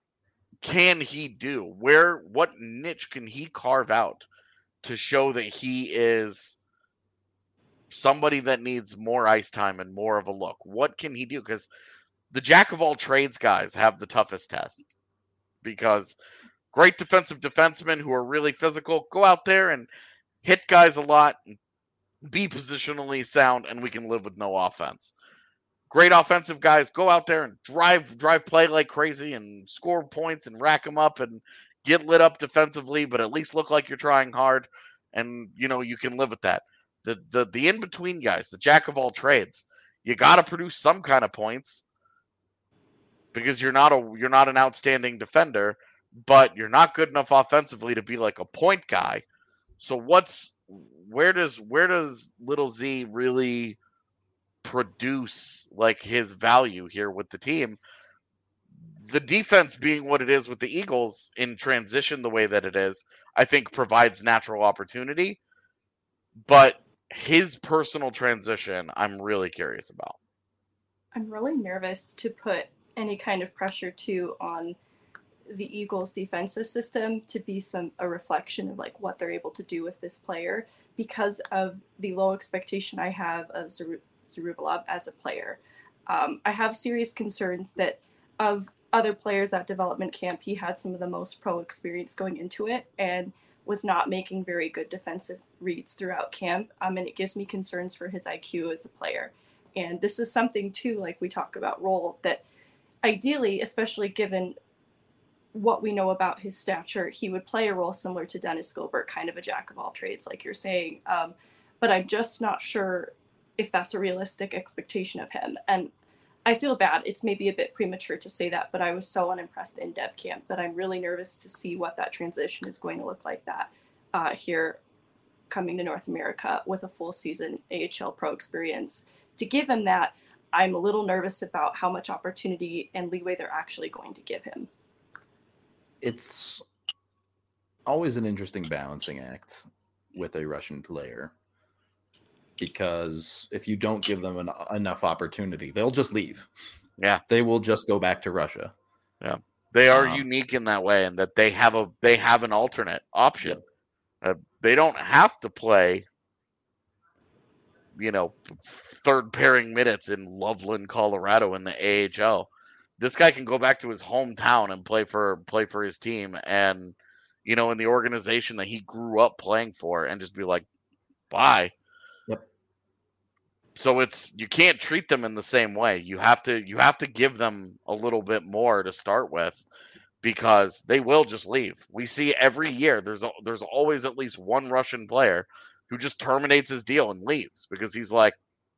can he do? Where what niche can he carve out to show that he is somebody that needs more ice time and more of a look? What can he do? Because the jack of all trades guys have the toughest test. Because great defensive defensemen who are really physical go out there and hit guys a lot, be positionally sound, and we can live with no offense. great offensive guys, go out there and drive drive play like crazy and score points and rack them up and get lit up defensively, but at least look like you're trying hard, and you know you can live with that. The the the in between guys, the jack of all trades, you got to produce some kind of points because you're not a you're not an outstanding defender, but you're not good enough offensively to be like a point guy. So what's where does where does Little Z really produce like his value here with the team? The defense being what it is with the Eagles in transition the way that it is, I think provides natural opportunity. But his personal transition, I'm really curious about.
I'm really nervous to put any kind of pressure too on the Eagles defensive system to be some a reflection of like what they're able to do with this player because of the low expectation I have of Zaru- Zarubalov as a player. Um, I have serious concerns that of other players at development camp, he had some of the most pro experience going into it and was not making very good defensive reads throughout camp. Um, and it gives me concerns for his I Q as a player. And this is something too, like we talk about role, that ideally, especially given what we know about his stature, he would play a role similar to Dennis Gilbert, kind of a jack of all trades, like you're saying. Um, but I'm just not sure if that's a realistic expectation of him. And I feel bad. It's maybe a bit premature to say that, but I was so unimpressed in dev camp that I'm really nervous to see what that transition is going to look like that uh, here coming to North America with a full season A H L pro experience. To give him that, I'm a little nervous about how much opportunity and leeway they're actually going to give him.
It's always an interesting balancing act with a Russian player. Because if you don't give them an, enough opportunity, they'll just leave.
Yeah.
They will just go back to Russia.
Yeah. They are
um,
unique in that way, and that they have a they have an alternate option.
Yep.
Uh, they don't have to play, you know, third pairing minutes in Loveland, Colorado in the A H L. This guy can go back to his hometown and play for play for his team and, you know, in the organization that he grew up playing for and just be like, bye.
Yep.
So it's you can't treat them in the same way. You have to you have to give them a little bit more to start with because they will just leave. We see every year there's a, there's always at least one Russian player who just terminates his deal and leaves because he's like,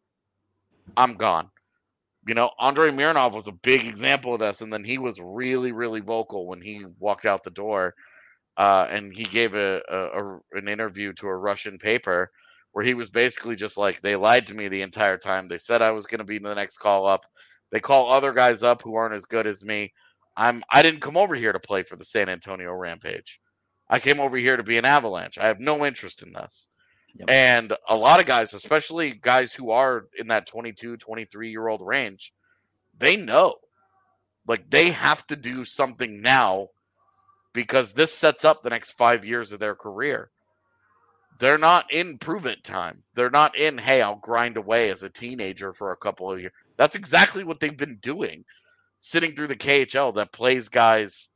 I'm gone. You know, Andrei Mironov was a big example of this, and then he was really, really vocal when he walked out the door, uh, and he gave a, a, a an interview to a Russian paper where he was basically just like, they lied to me the entire time. They said I was going to be the next call up. They call other guys up who aren't as good as me. I'm I didn't come over here to play for the San Antonio Rampage. I came over here to be an Avalanche. I have no interest in this. Yep. And a lot of guys, especially guys who are in that twenty-two, twenty-three-year-old range, they know. Like, they have to do something now because this sets up the next five years of their career. They're not in prove-it time. They're not in, hey, I'll grind away as a teenager for a couple of years. That's exactly what they've been doing, sitting through the K H L that plays guys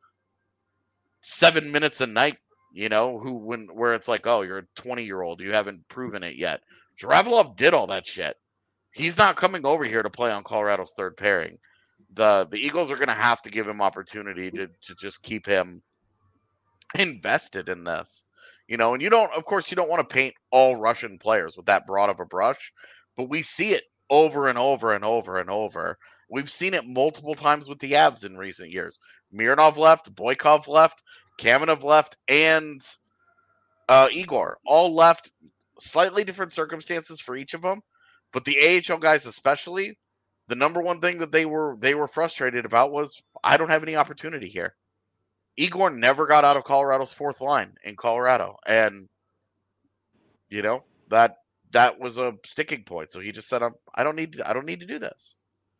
seven minutes a night. You know, who when where it's like, oh, you're a twenty-year-old, you haven't proven it yet. Zhuravlov did all that shit. He's not coming over here to play on Colorado's third pairing. The the Eagles are going to have to give him opportunity to, to just keep him invested in this. You know, and you don't, of course, you don't want to paint all Russian players with that broad of a brush, but we see it over and over and over and over. We've seen it multiple times with the Avs in recent years. Mironov left, Boykov left, Kamenev left, and uh, Igor all left. Slightly different circumstances for each of them, but the A H L guys especially, the number one thing that they were they were frustrated about was, I don't have any opportunity here. Igor never got out of Colorado's fourth line in Colorado, and you know that that was a sticking point. So he just said, "I don't need I don't need to do this."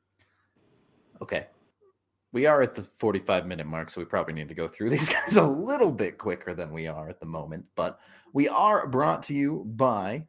Okay. We are at the forty-five minute mark, so we probably need to go through these guys a little bit quicker than we are at the moment. But we are brought to you by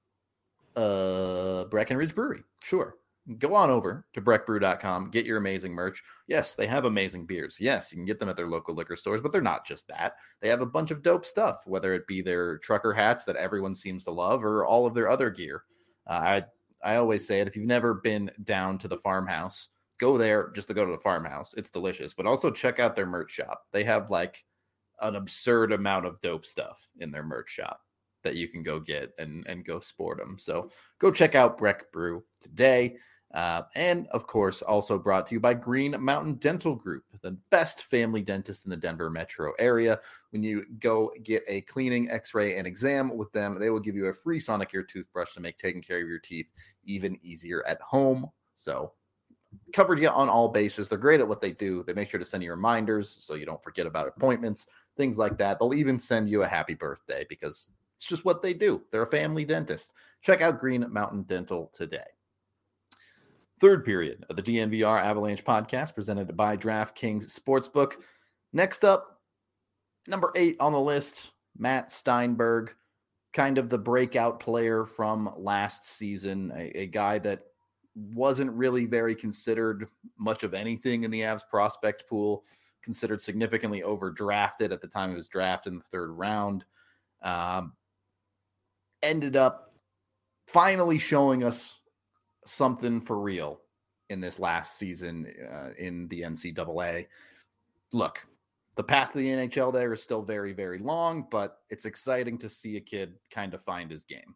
uh, Breckenridge Brewery. Sure. Go on over to breck brew dot com. Get your amazing merch. Yes, they have amazing beers. Yes, you can get them at their local liquor stores, but they're not just that. They have a bunch of dope stuff, whether it be their trucker hats that everyone seems to love or all of their other gear. Uh, I I always say it. If you've never been down to the farmhouse, go there just to go to the farmhouse. It's delicious, but also check out their merch shop. They have like an absurd amount of dope stuff in their merch shop that you can go get and, and go sport them. So go check out Breck Brew today. Uh, and of course, also brought to you by Green Mountain Dental Group, the best family dentist in the Denver metro area. When you go get a cleaning, x-ray, and exam with them, they will give you a free Sonicare toothbrush to make taking care of your teeth even easier at home. So covered you on all bases. They're great at what they do. They make sure to send you reminders so you don't forget about appointments, things like that. They'll even send you a happy birthday because it's just what they do. They're a family dentist. Check out Green Mountain Dental today. Third period of the D N V R Avalanche podcast presented by DraftKings Sportsbook. Next up, number eight on the list, Matt Steinberg, kind of the breakout player from last season, a, a guy that wasn't really very considered much of anything in the Avs prospect pool, considered significantly overdrafted at the time he was drafted in the third round. Um, ended up finally showing us something for real in this last season uh, in the N C double A. Look, the path to the N H L there is still very, very long, but it's exciting to see a kid kind of find his game.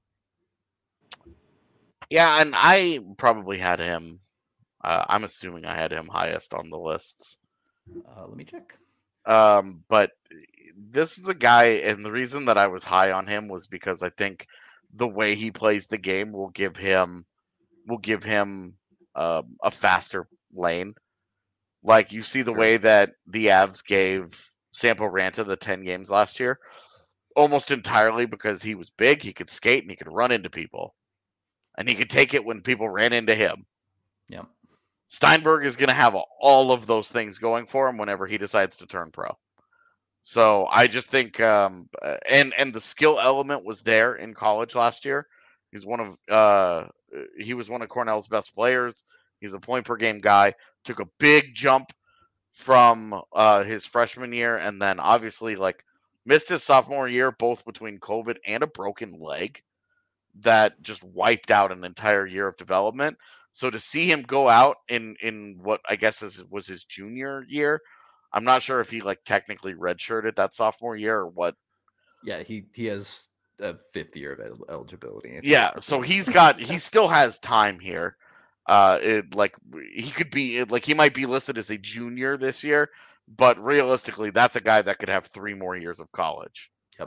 Yeah, and I probably had him. Uh, I'm assuming I had him highest on the lists.
Uh, let me check.
Um, but this is a guy, and the reason that I was high on him was because I think the way he plays the game will give him will give him uh, a faster lane. Like you see the
Sure.
way that the Avs gave Sampo Ranta the ten games last year, almost entirely because he was big, he could skate, and he could run into people. And he could take it when people ran into him.
Yep.
Steinberg is going to have all of those things going for him whenever he decides to turn pro. So I just think, um, and and the skill element was there in college last year. He's one of uh, he was one of Cornell's best players. He's a point per game guy. Took a big jump from uh, his freshman year, and then obviously like missed his sophomore year, both between COVID and a broken leg that just wiped out an entire year of development. So to see him go out in in what I guess is, was his junior year, I'm not sure if he like technically redshirted that sophomore year or what.
Yeah, he he has a fifth year of el- eligibility.
Yeah, so he's got he still has time here. Uh, it like he could be like he might be listed as a junior this year, but realistically, that's a guy that could have three more years of college.
Yep.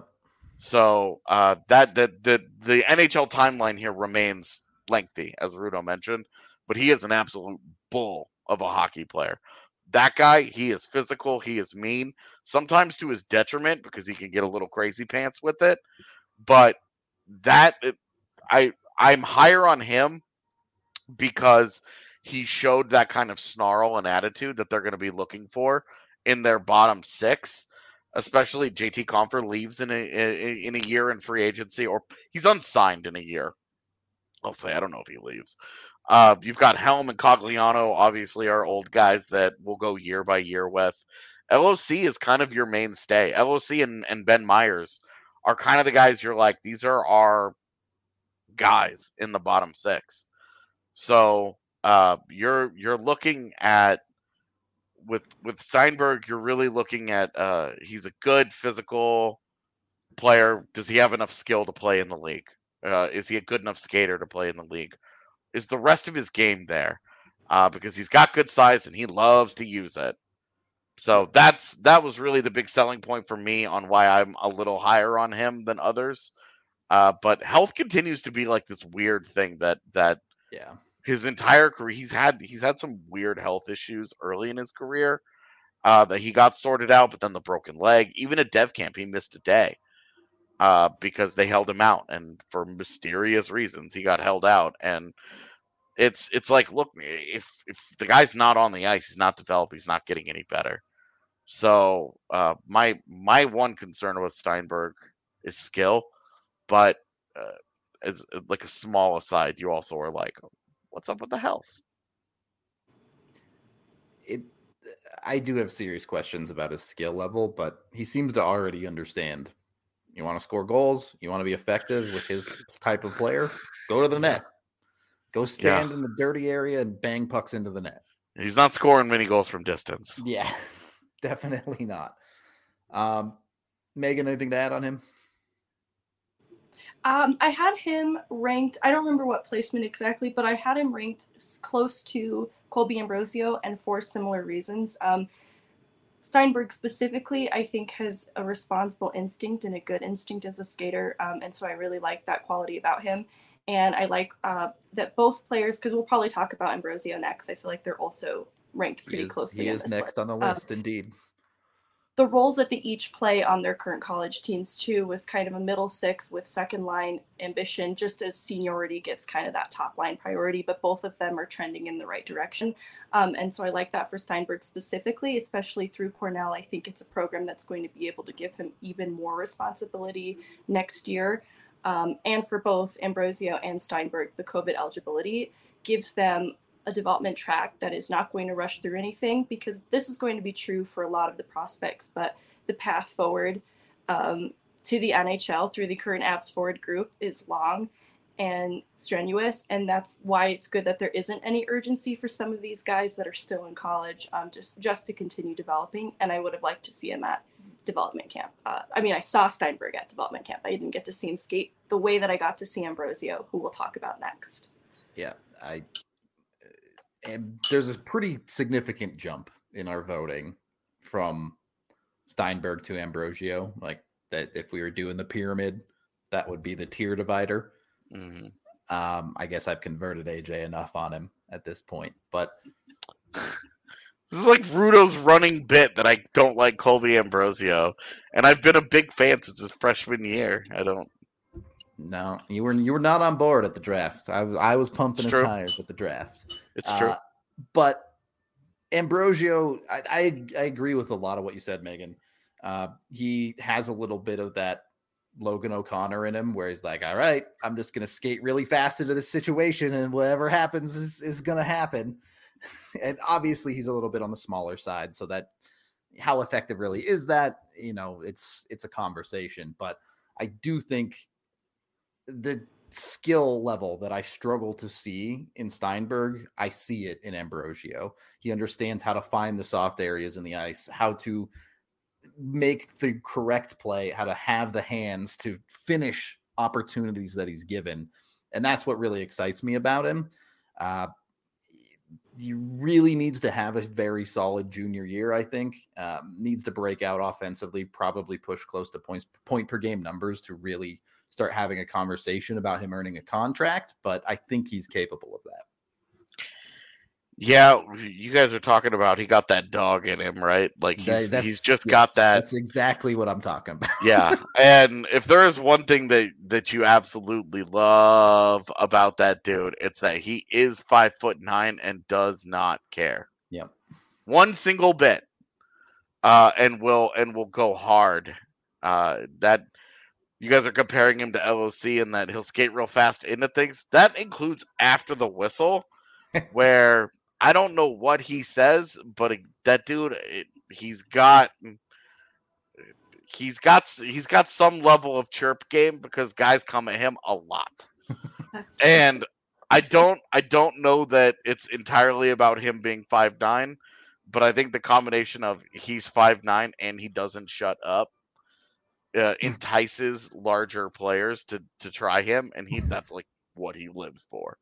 So uh, that the, the the N H L timeline here remains lengthy, as Rudo mentioned, but he is an absolute bull of a hockey player. That guy, he is physical, he is mean, sometimes to his detriment because he can get a little crazy pants with it. But that I I'm higher on him because he showed that kind of snarl and attitude that they're going to be looking for in their bottom six. Especially J T Compher leaves in a in a year in free agency, or he's unsigned in a year. I'll say I don't know if he leaves. Uh, you've got Helm and Cogliano, obviously, are old guys that will go year by year with. L O C is kind of your mainstay. L O C and, and Ben Myers are kind of the guys you're like, these are our guys in the bottom six. So uh, you're you're looking at with with Steinberg, you're really looking at uh, he's a good physical player. Does he have enough skill to play in the league? Uh, is he a good enough skater to play in the league? Is the rest of his game there? Uh, because he's got good size and he loves to use it. So that's that was really the big selling point for me on why I'm a little higher on him than others. Uh, but health continues to be like this weird thing that that
yeah.
His entire career, he's had he's had some weird health issues early in his career uh, that he got sorted out, but then the broken leg. Even at Dev Camp, he missed a day uh, because they held him out, and for mysterious reasons, he got held out. And it's it's like, look, if if the guy's not on the ice, he's not developing, he's not getting any better. So uh, my my one concern with Steinberg is skill, but uh, as like a small aside, you also are like, what's up with the health?
It, I do have serious questions about his skill level, but he seems to already understand. You want to score goals, you want to be effective with his type of player, go to the net. Go stand yeah. in the dirty area and bang pucks into the net.
He's not scoring many goals from distance.
Yeah, definitely not. Um, Megan, anything to add on him?
Um, I had him ranked, I don't remember what placement exactly, but I had him ranked close to Colby Ambrosio, and for similar reasons. Um, Steinberg specifically, I think, has a responsible instinct and a good instinct as a skater, um, and so I really like that quality about him. And I like uh, that both players, because we'll probably talk about Ambrosio next, I feel like they're also ranked pretty
he is,
closely.
He is
on
next
list.
on the list, um, indeed.
The roles that they each play on their current college teams, too, was kind of a middle six with second line ambition, just as seniority gets kind of that top line priority, but both of them are trending in the right direction. Um, and so I like that for Steinberg specifically, especially through Cornell. I think it's a program that's going to be able to give him even more responsibility next year. Um, and for both Ambrosio and Steinberg, the COVID eligibility gives them a development track that is not going to rush through anything, because this is going to be true for a lot of the prospects, but the path forward um, to the N H L through the current Avs forward group is long and strenuous. And that's why it's good that there isn't any urgency for some of these guys that are still in college, um, just, just to continue developing. And I would have liked to see him at development camp. Uh, I mean, I saw Steinberg at development camp. I didn't get to see him skate the way that I got to see Ambrosio, who we'll talk about next.
Yeah, I... And there's a pretty significant jump in our voting from Steinberg to Ambrosio. Like that, if we were doing the pyramid, that would be the tier divider.
Mm-hmm.
Um, I guess I've converted A J enough on him at this point, but
this is like Rudo's running bit that I don't like Colby Ambrosio, and I've been a big fan since his freshman year. I don't.
No, you were you were not on board at the draft. I, I was pumping
it's
his
true.
tires at the draft.
It's true.
Uh, but Ambrosio, I, I I agree with a lot of what you said, Megan. Uh, he has a little bit of that Logan O'Connor in him, where he's like, all right, I'm just going to skate really fast into this situation, and whatever happens is, is going to happen. And obviously he's a little bit on the smaller side, so that how effective really is that? You know, it's it's a conversation. But I do think the skill level that I struggle to see in Steinberg, I see it in Ambrosio. He understands how to find the soft areas in the ice, how to make the correct play, how to have the hands to finish opportunities that he's given. And that's what really excites me about him. Uh, he really needs to have a very solid junior year, I think. Um, needs to break out offensively, probably push close to points point per game numbers to really start having a conversation about him earning a contract, but I think he's capable of that.
Yeah, you guys are talking about he got that dog in him, right? Like he's,
that's,
he's just
yes,
got that.
That's exactly what I'm talking about.
Yeah, and if there is one thing that, that you absolutely love about that dude, it's that he is five foot nine and does not care.
Yep.
One single bit, uh, and will and will go hard. Uh, that you guys are comparing him to L O C and that he'll skate real fast into things. That includes after the whistle, where I don't know what he says, but it, that dude, it, he's got he's got he's got some level of chirp game because guys come at him a lot. And I don't I don't know that it's entirely about him being five nine, but I think the combination of he's five nine and he doesn't shut up Uh, entices larger players to to try him, and he that's like what he lives for.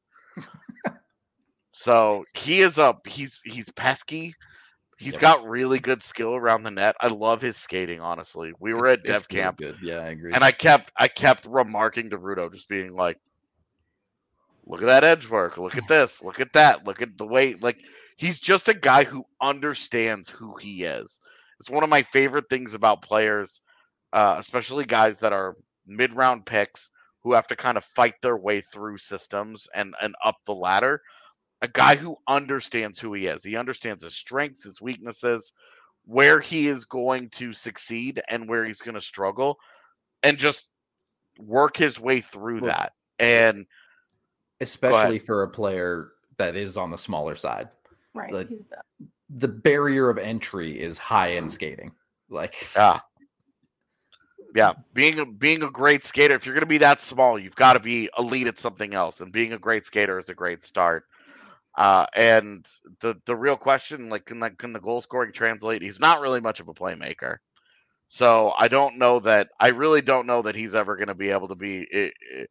So he is a he's he's pesky. He's yep. got really good skill around the net. I love his skating. Honestly, we were
it's,
at Dev
really
Camp,
good. Yeah, I agree.
And I kept I kept remarking to Rudo, just being like, "Look at that edge work. Look at this. Look at that. Look at the way." Like he's just a guy who understands who he is. It's one of my favorite things about players. Uh, especially guys that are mid-round picks who have to kind of fight their way through systems and, and up the ladder. A guy who understands who he is. He understands his strengths, his weaknesses, where he is going to succeed and where he's going to struggle, and just work his way through well, that. And
especially for a player that is on the smaller side.
Right.
The, the barrier of entry is high-end skating. Like,
yeah. Yeah, being a being a great skater. If you're going to be that small, you've got to be elite at something else. And being a great skater is a great start. Uh, and the the real question, like, can the, can the goal scoring translate? He's not really much of a playmaker, so I don't know that. I really don't know that he's ever going to be able to be.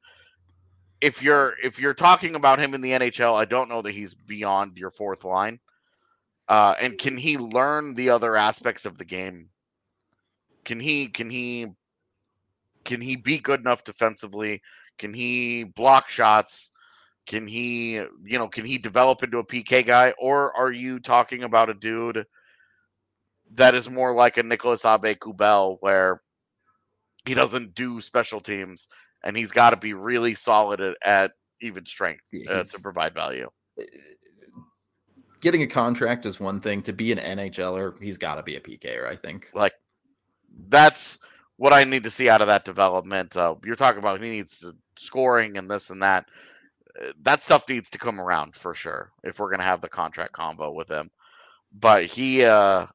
If you're if you're talking about him in the N H L, I don't know that he's beyond your fourth line. Uh, and can he learn the other aspects of the game? Can he can he can he be good enough defensively? Can he block shots? Can he, you know, can he develop into a P K guy? Or are you talking about a dude that is more like a Nicolas Aube-Kubel, where he doesn't do special teams and he's got to be really solid at, at even strength uh, to provide value?
Getting a contract is one thing. To be an N H L er, he's got to be a P K er, I think.
Like, that's what I need to see out of that development. Uh, you're talking about he needs scoring and this and that. That stuff needs to come around for sure if we're going to have the contract combo with him. But he uh,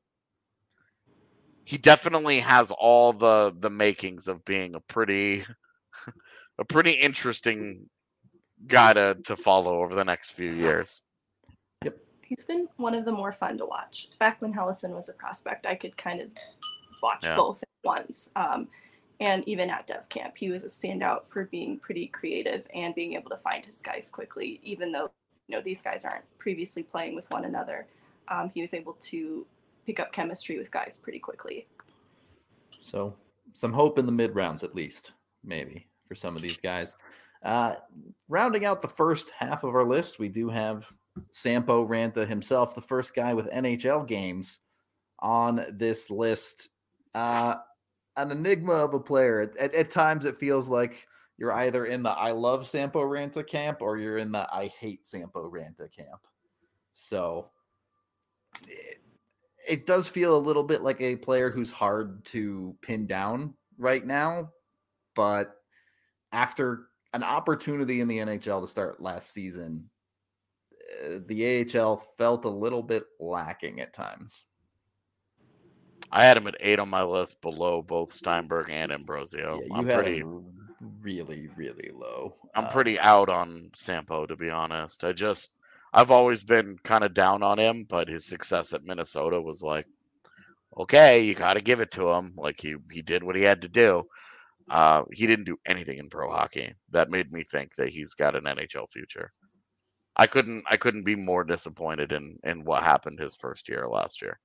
he definitely has all the the makings of being a pretty a pretty interesting guy to, to follow over the next few years.
Yep.
He's been one of the more fun to watch. Back when Helleson was a prospect, I could kind of watch yeah. both at once. Um, And even at Dev Camp, he was a standout for being pretty creative and being able to find his guys quickly, even though, you know, these guys aren't previously playing with one another. Um, he was able to pick up chemistry with guys pretty quickly.
So some hope in the mid rounds, at least, maybe, for some of these guys. Uh, rounding out the first half of our list, we do have Sampo Ranta himself, the first guy with N H L games on this list. Uh, An enigma of a player. At, at times, it feels like you're either in the I love Sampo Ranta camp or you're in the I hate Sampo Ranta camp. So it, it does feel a little bit like a player who's hard to pin down right now. But after an opportunity in the N H L to start last season, uh, the A H L felt a little bit lacking at times.
I had him at eight on my list, below both Steinberg and Ambrosio.
Yeah, you
I'm
had
pretty
him really, really low.
I'm
uh,
pretty out on Sampo, to be honest. I just I've always been kind of down on him, but his success at Minnesota was like, okay, you got to give it to him. Like he he did what he had to do. Uh, he didn't do anything in pro hockey that made me think that he's got an N H L future. I couldn't I couldn't be more disappointed in in what happened his first year last year.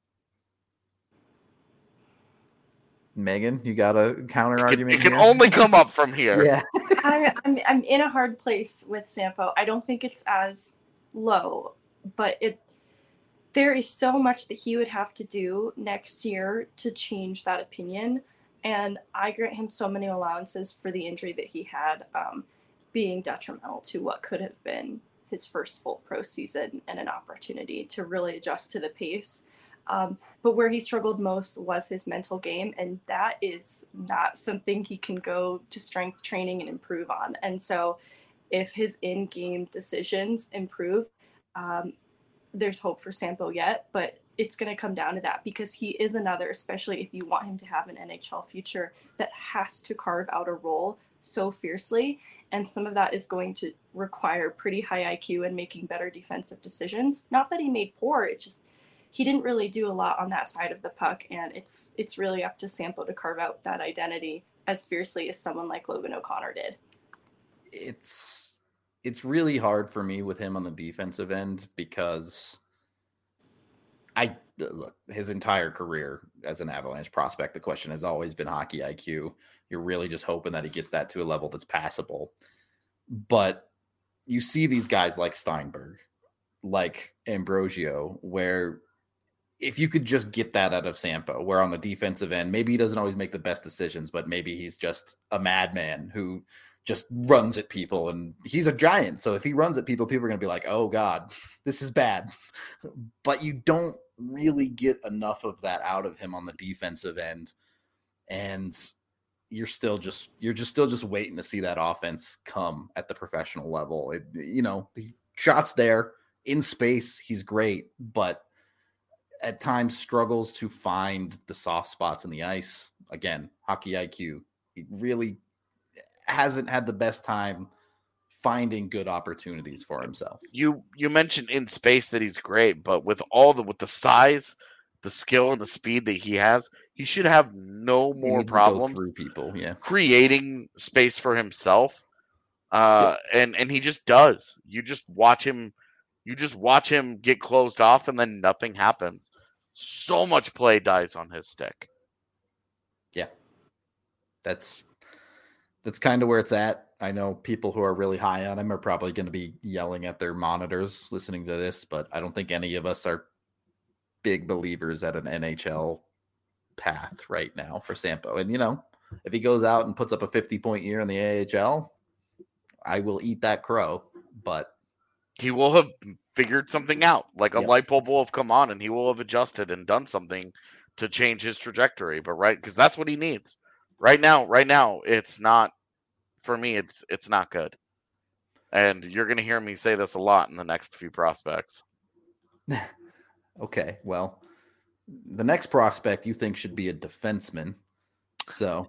Megan, you got a counter
it
argument?
Can, it can
here?
only come up from here.
Yeah.
I, I'm I'm in a hard place with Sampo. I don't think it's as low, but it there is so much that he would have to do next year to change that opinion. And I grant him so many allowances for the injury that he had, um, being detrimental to what could have been his first full pro season and an opportunity to really adjust to the pace. Um, but where he struggled most was his mental game, and that is not something he can go to strength training and improve on. And so if his in-game decisions improve, um, there's hope for Sampo yet, but it's going to come down to that, because he is another, especially if you want him to have an N H L future, that has to carve out a role so fiercely. And some of that is going to require pretty high I Q and making better defensive decisions. Not that he made poor, it's just he didn't really do a lot on that side of the puck, and it's it's really up to Sampo to carve out that identity as fiercely as someone like Logan O'Connor did.
It's it's really hard for me with him on the defensive end, because I look, his entire career as an Avalanche prospect, the question has always been hockey I Q. You're really just hoping that he gets that to a level that's passable. But you see these guys like Steinberg, like Ambrosio, where if you could just get that out of Sampo, where on the defensive end, maybe he doesn't always make the best decisions, but maybe he's just a madman who just runs at people, and he's a giant. So if he runs at people, people are going to be like, oh God, this is bad. But you don't really get enough of that out of him on the defensive end. And you're still just, you're just still just waiting to see that offense come at the professional level. It, you know, the shots there in space, he's great, but at times struggles to find the soft spots in the ice. Again, hockey I Q, really hasn't had the best time finding good opportunities for himself.
You you mentioned in space that he's great, but with all the with the size, the skill, and the speed that he has, he should have no
He
more
needs to go
problems
through people. Yeah.
creating space for himself. Uh, and and he just does. You just watch him. You just watch him get closed off, and then nothing happens. So much play dies on his stick.
Yeah, that's that's kind of where it's at. I know people who are really high on him are probably going to be yelling at their monitors listening to this, but I don't think any of us are big believers at an N H L path right now for Sampo. And, you know, if he goes out and puts up a fifty-point year in the A H L, I will eat that crow, but
he will have figured something out. Like a
Yep.
light bulb will have come on, and he will have adjusted and done something to change his trajectory. But right, because that's what he needs right now. Right now, it's not for me. It's it's not good, and you're going to hear me say this a lot in the next few prospects.
Okay, well, the next prospect you think should be a defenseman, so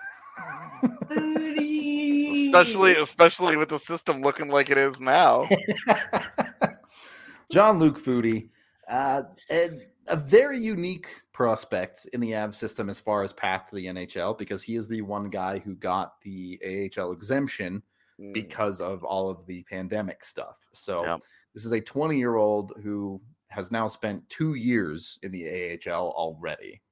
especially especially with the system looking like it is now.
Jean-Luc Foudy, uh, a, a very unique prospect in the A V system as far as path to the N H L, because he is the one guy who got the A H L exemption
Mm.
because of all of the pandemic stuff. So
Yeah.
this is a twenty-year-old who has now spent two years in the A H L already.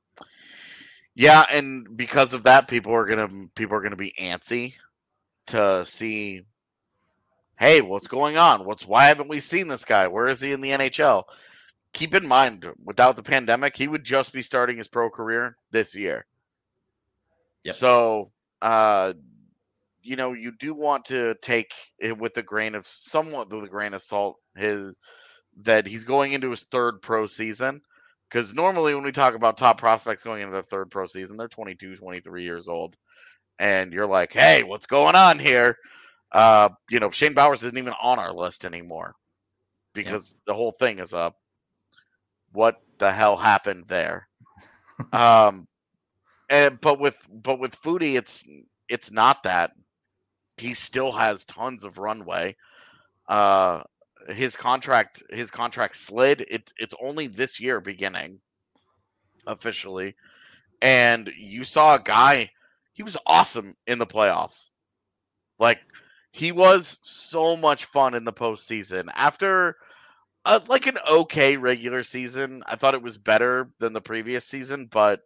Yeah, and because of that, people are gonna people are gonna be antsy to see, hey, what's going on? What's why haven't we seen this guy? Where is he in the N H L? Keep in mind, without the pandemic, he would just be starting his pro career this year.
Yep.
So, uh, you know, you do want to take it with a grain of somewhat with a grain of salt his that he's going into his third pro season. Because normally when we talk about top prospects going into their third pro season, they're twenty-two, twenty-three years old. And you're like, hey, what's going on here? Uh, you know, Shane Bowers isn't even on our list anymore because the whole thing is up. What the hell happened there? um, and but with but with Foudy, it's it's not that. He still has tons of runway. Uh, his contract his contract slid. It it's only this year beginning officially, and you saw a guy. He was awesome in the playoffs. Like he was so much fun in the postseason. After uh, like an okay regular season, I thought it was better than the previous season, but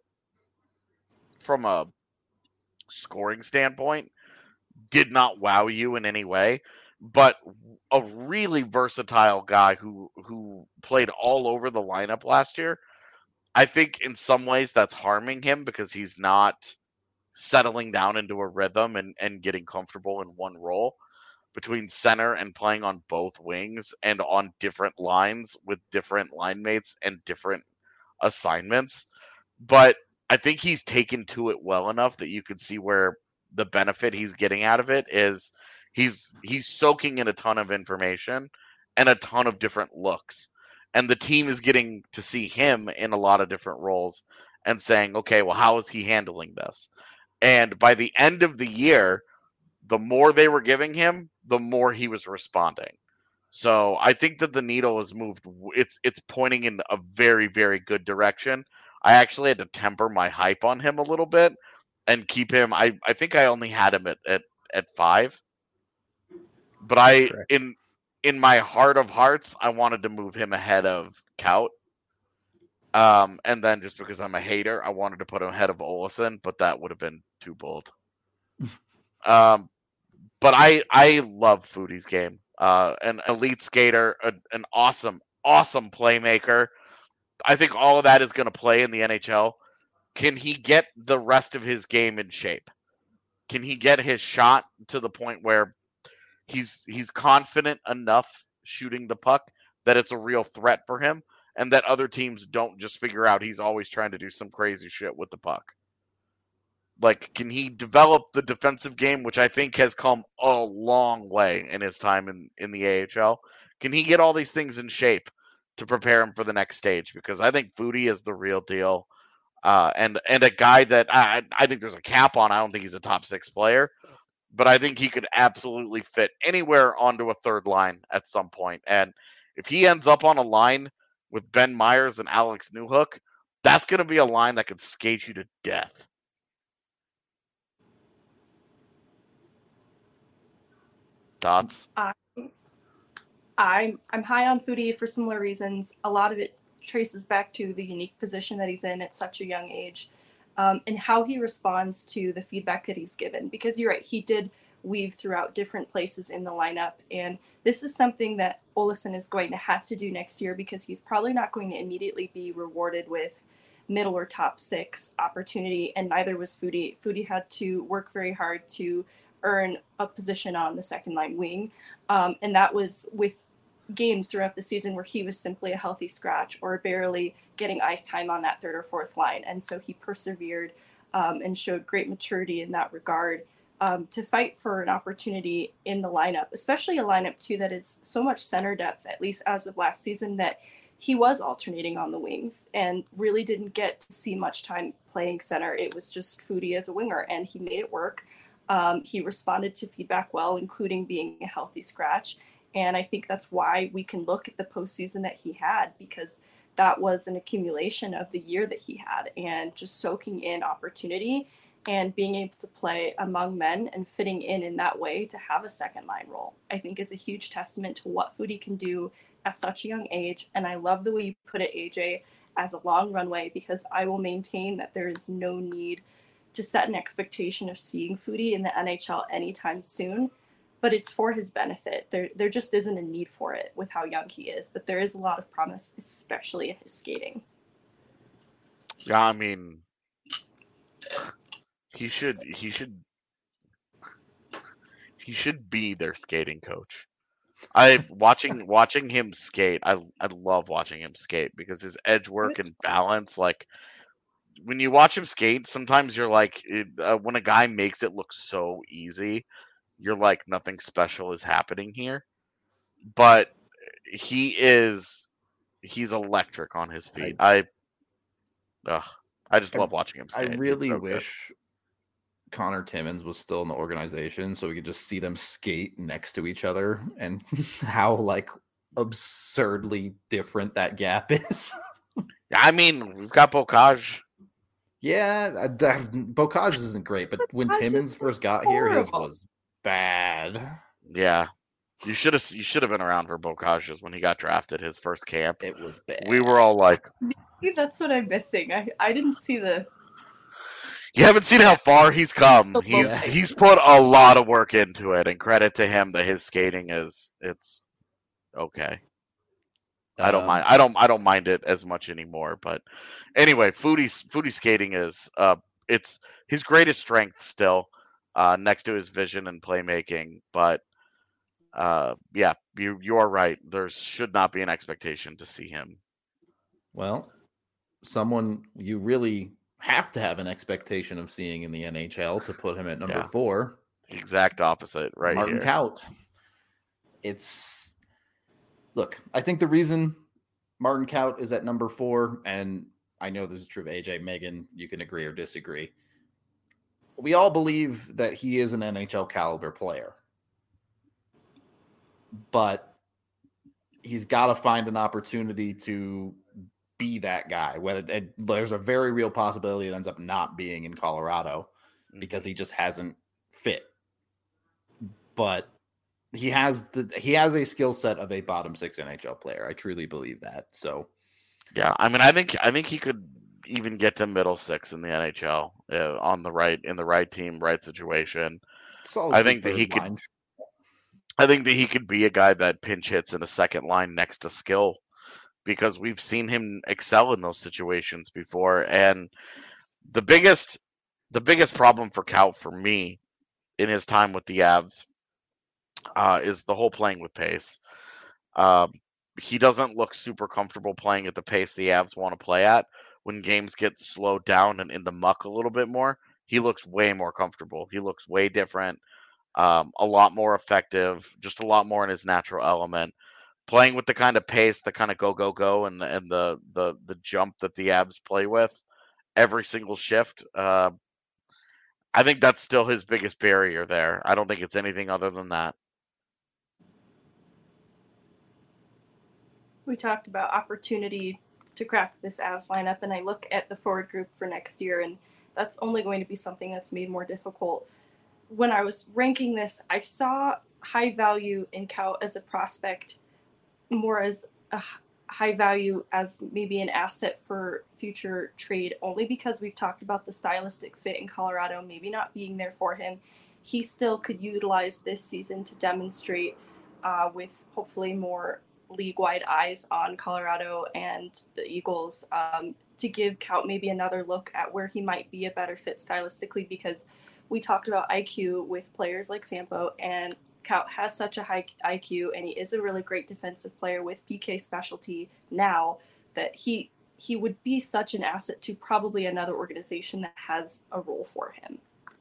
from a scoring standpoint, did not wow you in any way. But a really versatile guy who who played all over the lineup last year. I think in some ways that's harming him because he's not settling down into a rhythm and, and getting comfortable in one role between center and playing on both wings and on different lines with different line mates and different assignments. But I think he's taken to it well enough that you could see where the benefit he's getting out of it is he's he's soaking in a ton of information and a ton of different looks. And the team is getting to see him in a lot of different roles and saying, okay, well, how is he handling this? And by the end of the year, the more they were giving him, the more he was responding. So I think that the needle has moved. It's it's pointing in a very, very good direction. I actually had to temper my hype on him a little bit and keep him. I, I think I only had him at, at, at five. But I
Correct.
in in my heart of hearts, I wanted to move him ahead of Kaut. Um, and then just because I'm a hater, I wanted to put him ahead of Olsen, but that would have been too bold. um, but I I love Foudy's game. Uh, an elite skater, a, an awesome, awesome playmaker. I think all of that is going to play in the N H L. Can he get the rest of his game in shape? Can he get his shot to the point where he's he's confident enough shooting the puck that it's a real threat for him and that other teams don't just figure out he's always trying to do some crazy shit with the puck? Like, can he develop the defensive game, which I think has come a long way in his time in, in the A H L? Can he get all these things in shape to prepare him for the next stage? Because I think Foudy is the real deal. Uh, and and a guy that I I think there's a cap on. I don't think he's a top six player, but I think he could absolutely fit anywhere onto a third line at some point. And if he ends up on a line with Ben Myers and Alex Newhook, that's going to be a line that could skate you to death. Thoughts?
I, I'm I'm high on Foudy for similar reasons. A lot of it traces back to the unique position that he's in at such a young age, um, and how he responds to the feedback that he's given. Because you're right, he did weave throughout different places in the lineup, and this is something that Olausson is going to have to do next year, because he's probably not going to immediately be rewarded with middle or top six opportunity, and neither was Foudy. Foudy had to work very hard to earn a position on the second line wing, um, and that was with games throughout the season where he was simply a healthy scratch or barely getting ice time on that third or fourth line. And so he persevered um, and showed great maturity in that regard, um, to fight for an opportunity in the lineup, especially a lineup too that is so much center depth, at least as of last season, that he was alternating on the wings and really didn't get to see much time playing center. It was just Foudy as a winger, and he made it work. Um, he responded to feedback well, including being a healthy scratch. And I think that's why we can look at the postseason that he had, because that was an accumulation of the year that he had, and just soaking in opportunity and being able to play among men and fitting in in that way to have a second line role, I think is a huge testament to what Foudy can do at such a young age. And I love the way you put it, A J, as a long runway, because I will maintain that there is no need to set an expectation of seeing Foudy in the N H L anytime soon. But it's for his benefit. There there just isn't a need for it with how young he is, but there is a lot of promise, especially in his skating.
Yeah, I mean, he should he should he should be their skating coach. I watching watching him skate. I I love watching him skate because his edge work and balance. Like when you watch him skate, sometimes you're like, it, uh, when a guy makes it look so easy, you're like, nothing special is happening here. But he is he's electric on his feet. I I, ugh, I just love watching him skate.
I really
so
wish good. Connor Timmins was still in the organization so we could just see them skate next to each other, and how like absurdly different that gap is.
I mean, we've got Bocage.
Yeah, uh, Bocage isn't great, but when
Bocage
Timmins
is
first got here, his
horrible.
was bad.
Yeah. You should have you should have been around for Bocage's when he got drafted, his first camp.
It was bad.
We were all like,
Maybe that's what I'm missing. I, I didn't see the
you haven't seen how far he's come.
The
He's
low
he's put a lot of work into it, and credit to him that his skating is it's okay. I don't
Um,
mind. I don't. I don't mind it as much anymore. But anyway, Foudy's Foudy skating is uh, it's his greatest strength still, uh, next to his vision and playmaking. But uh, yeah, you you are right. There should not be an expectation to see him.
Well, someone you really have to have an expectation of seeing in the N H L to put him at number
Yeah.
four.
Exact opposite, right
Martin
here.
Kaut. It's look, I think the reason Martin Kaut is at number four, and I know this is true of A J, Megan, you can agree or disagree. We all believe that he is an N H L caliber player, but he's got to find an opportunity to be that guy. Whether and there's a very real possibility it ends up not being in Colorado because he just hasn't fit. But he has the he has a skill set of a bottom six N H L player. I truly believe that. So
Yeah, I mean, I think I think he could even get to middle six in the N H L uh, on the right in the right team, right situation.
solidly
I think that
third
he could.
line.
I think that he could be a guy that pinch hits in a second line next to skill, because we've seen him excel in those situations before. And the biggest, the biggest problem for Kaut for me in his time with the Avs uh, is the whole playing with pace. Um, he doesn't look super comfortable playing at the pace the Avs want to play at. When games get slowed down and in the muck a little bit more, he looks way more comfortable. He looks way different. Um, a lot more effective, just a lot more in his natural element. Playing with the kind of pace, the kind of go go go, and the and the the the jump that the Avs play with, every single shift. Uh, I think that's still his biggest barrier there. I don't think it's anything other than that.
We talked about opportunity to crack this Avs lineup, and I look at the forward group for next year, and that's only going to be something that's made more difficult. When I was ranking this, I saw high value in Kaut as a prospect, more as a high value as maybe an asset for future trade, only because we've talked about the stylistic fit in Colorado maybe not being there for him. He still could utilize this season to demonstrate uh, with hopefully more league-wide eyes on Colorado and the Eagles, um, to give Kaut maybe another look at where he might be a better fit stylistically, because we talked about I Q with players like Sampo, and Kaut has such a high I Q, and he is a really great defensive player with P K specialty now, that he he would be such an asset to probably another organization that has a role for him.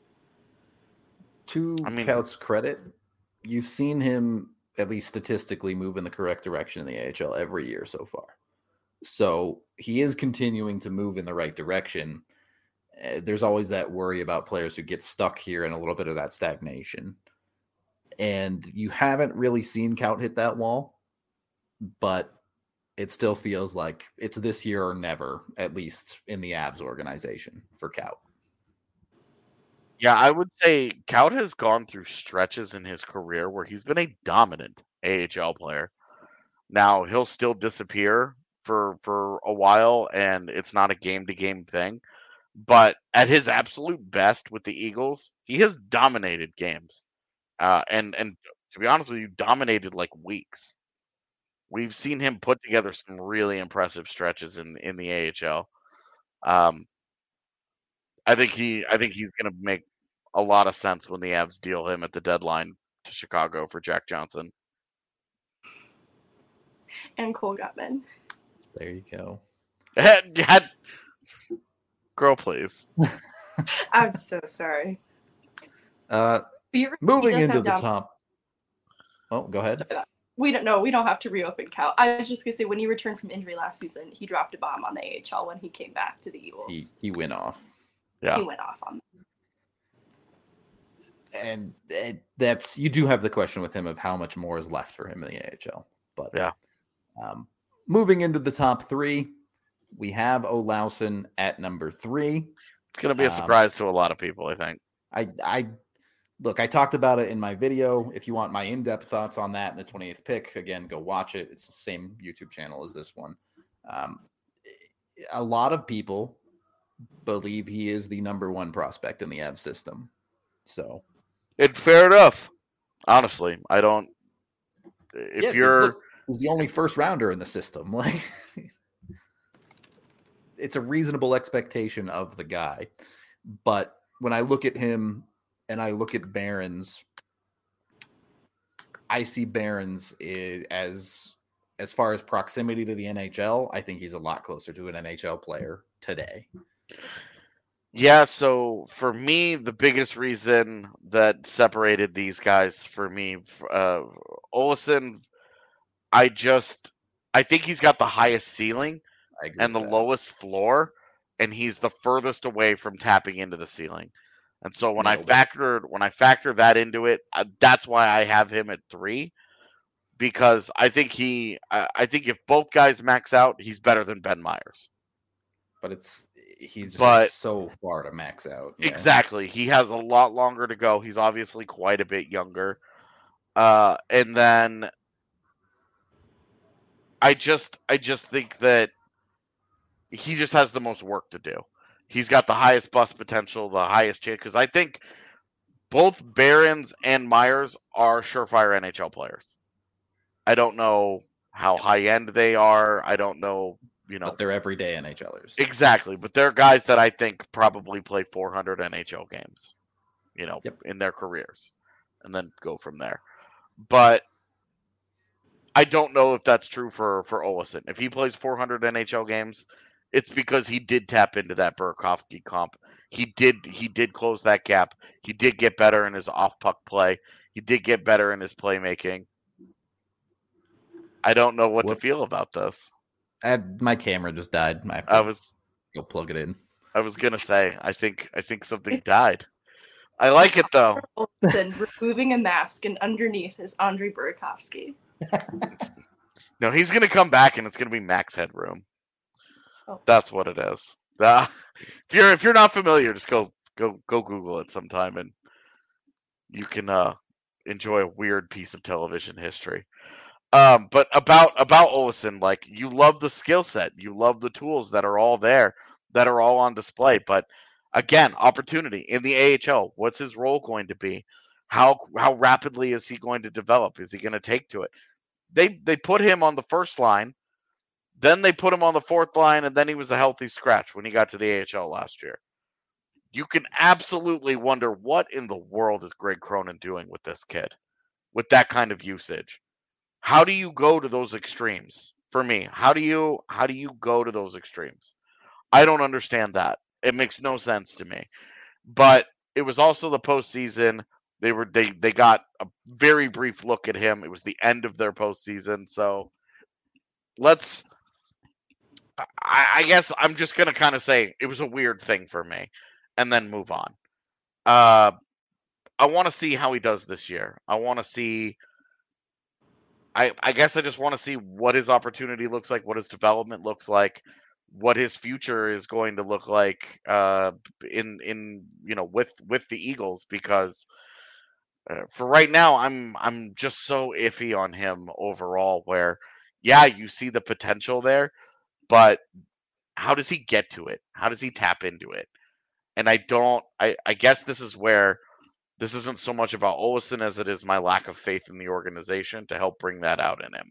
To
I mean,
Kaut's credit, you've seen him at least statistically move in the correct direction in the A H L every year so far. So he is continuing to move in the right direction. Uh, there's always that worry about players who get stuck here and a little bit of that stagnation. And you haven't really seen Kaut hit that wall, but it still feels like it's this year or never, at least in the Avs organization for Kaut.
Yeah, I would say Kaut has gone through stretches in his career where he's been a dominant A H L player. Now, he'll still disappear for for a while, and it's not a game-to-game thing. But at his absolute best with the Eagles, he has dominated games. Uh, and, and to be honest with you, dominated like weeks. We've seen him put together some really impressive stretches in, in the A H L. Um, I think he I think he's going to make a lot of sense when the Avs deal him at the deadline to Chicago for Jack Johnson.
And Cole Gutman.
There you go.
Girl, please.
I'm so sorry.
Uh, moving into the down- top. Oh, go ahead.
We don't know. We don't have to reopen Kaut. I was just gonna say, when he returned from injury last season, he dropped a bomb on the A H L when he came back to the Eagles.
He he went off.
Yeah,
he went off on them.
And it, that's you do have the question with him of how much more is left for him in the A H L. But
yeah,
um, moving into the top three, we have Olausson at number three.
It's going to be a surprise um, to a lot of people, I think.
I I look, I talked about it in my video. If you want my in-depth thoughts on that in the twenty-eighth pick, again, go watch it. It's the same YouTube channel as this one. Um, a lot of people believe he is the number one prospect in the Avs system. So,
it's fair enough. Honestly, I don't. If
yeah,
you're,
look, he's the only first rounder in the system. Like, it's a reasonable expectation of the guy. But when I look at him and I look at Barons, I see Barons as as far as proximity to the N H L. I think he's a lot closer to an N H L player today.
Yeah, so for me, the biggest reason that separated these guys for me, uh, Olausson, I just, I think he's got the highest ceiling and the
that.
lowest floor, and he's the furthest away from tapping into the ceiling. And so when Nailed I factored, it. when I factor that into it, uh, that's why I have him at three, because I think he, uh, I think if both guys max out, he's better than Ben Meyers.
But it's, he's just
but,
so far to max out.
Yeah. Exactly. He has a lot longer to go. He's obviously quite a bit younger. Uh, and then I just I just think that he just has the most work to do. He's got the highest bust potential, the highest chance, because I think both Barons and Meyers are surefire N H L players. I don't know how high end they are. I don't know. You know,
but they're everyday NHLers.
Exactly. But they're guys that I think probably play four hundred N H L games, you know, yep. in their careers, and then go from there. But I don't know if that's true for, for Olausson. If he plays four hundred N H L games, it's because he did tap into that Burakovsky comp. He did, he did close that gap. He did get better in his off puck play. He did get better in his playmaking. I don't know what, what? to feel about this.
I had, my camera just died. I,
I was
go plug it in.
I was gonna say, I think I think something
It's-
died. I like it though.
Olsen removing a mask, and underneath is Andre Burakovsky.
No, he's gonna come back, and it's gonna be Max Headroom.
Oh,
That's what it is. Uh, if you're if you're not familiar, just go go go Google it sometime, and you can uh, enjoy a weird piece of television history. Um, but about about Olsen, like you love the skill set, you love the tools that are all there, that are all on display. But again, opportunity in the A H L. What's his role going to be? How how rapidly is he going to develop? Is he going to take to it? They they put him on the first line, then they put him on the fourth line, and then he was a healthy scratch when he got to the A H L last year. You can absolutely wonder what in the world is Greg Cronin doing with this kid, with that kind of usage. How do you go to those extremes? For me, how do you how do you go to those extremes? I don't understand that. It makes no sense to me. But it was also the postseason. They were they they got a very brief look at him. It was the end of their postseason. So let's I, I guess I'm just gonna kind of say it was a weird thing for me, and then move on. Uh, I want to see how he does this year. I want to see. I I guess I just want to see what his opportunity looks like, what his development looks like, what his future is going to look like. Uh, in in you know with with the Eagles, because uh, for right now, I'm I'm just so iffy on him overall. Where yeah, you see the potential there, but how does he get to it? How does he tap into it? And I don't. I I guess this is where this isn't so much about Olsen as it is my lack of faith in the organization to help bring that out in him.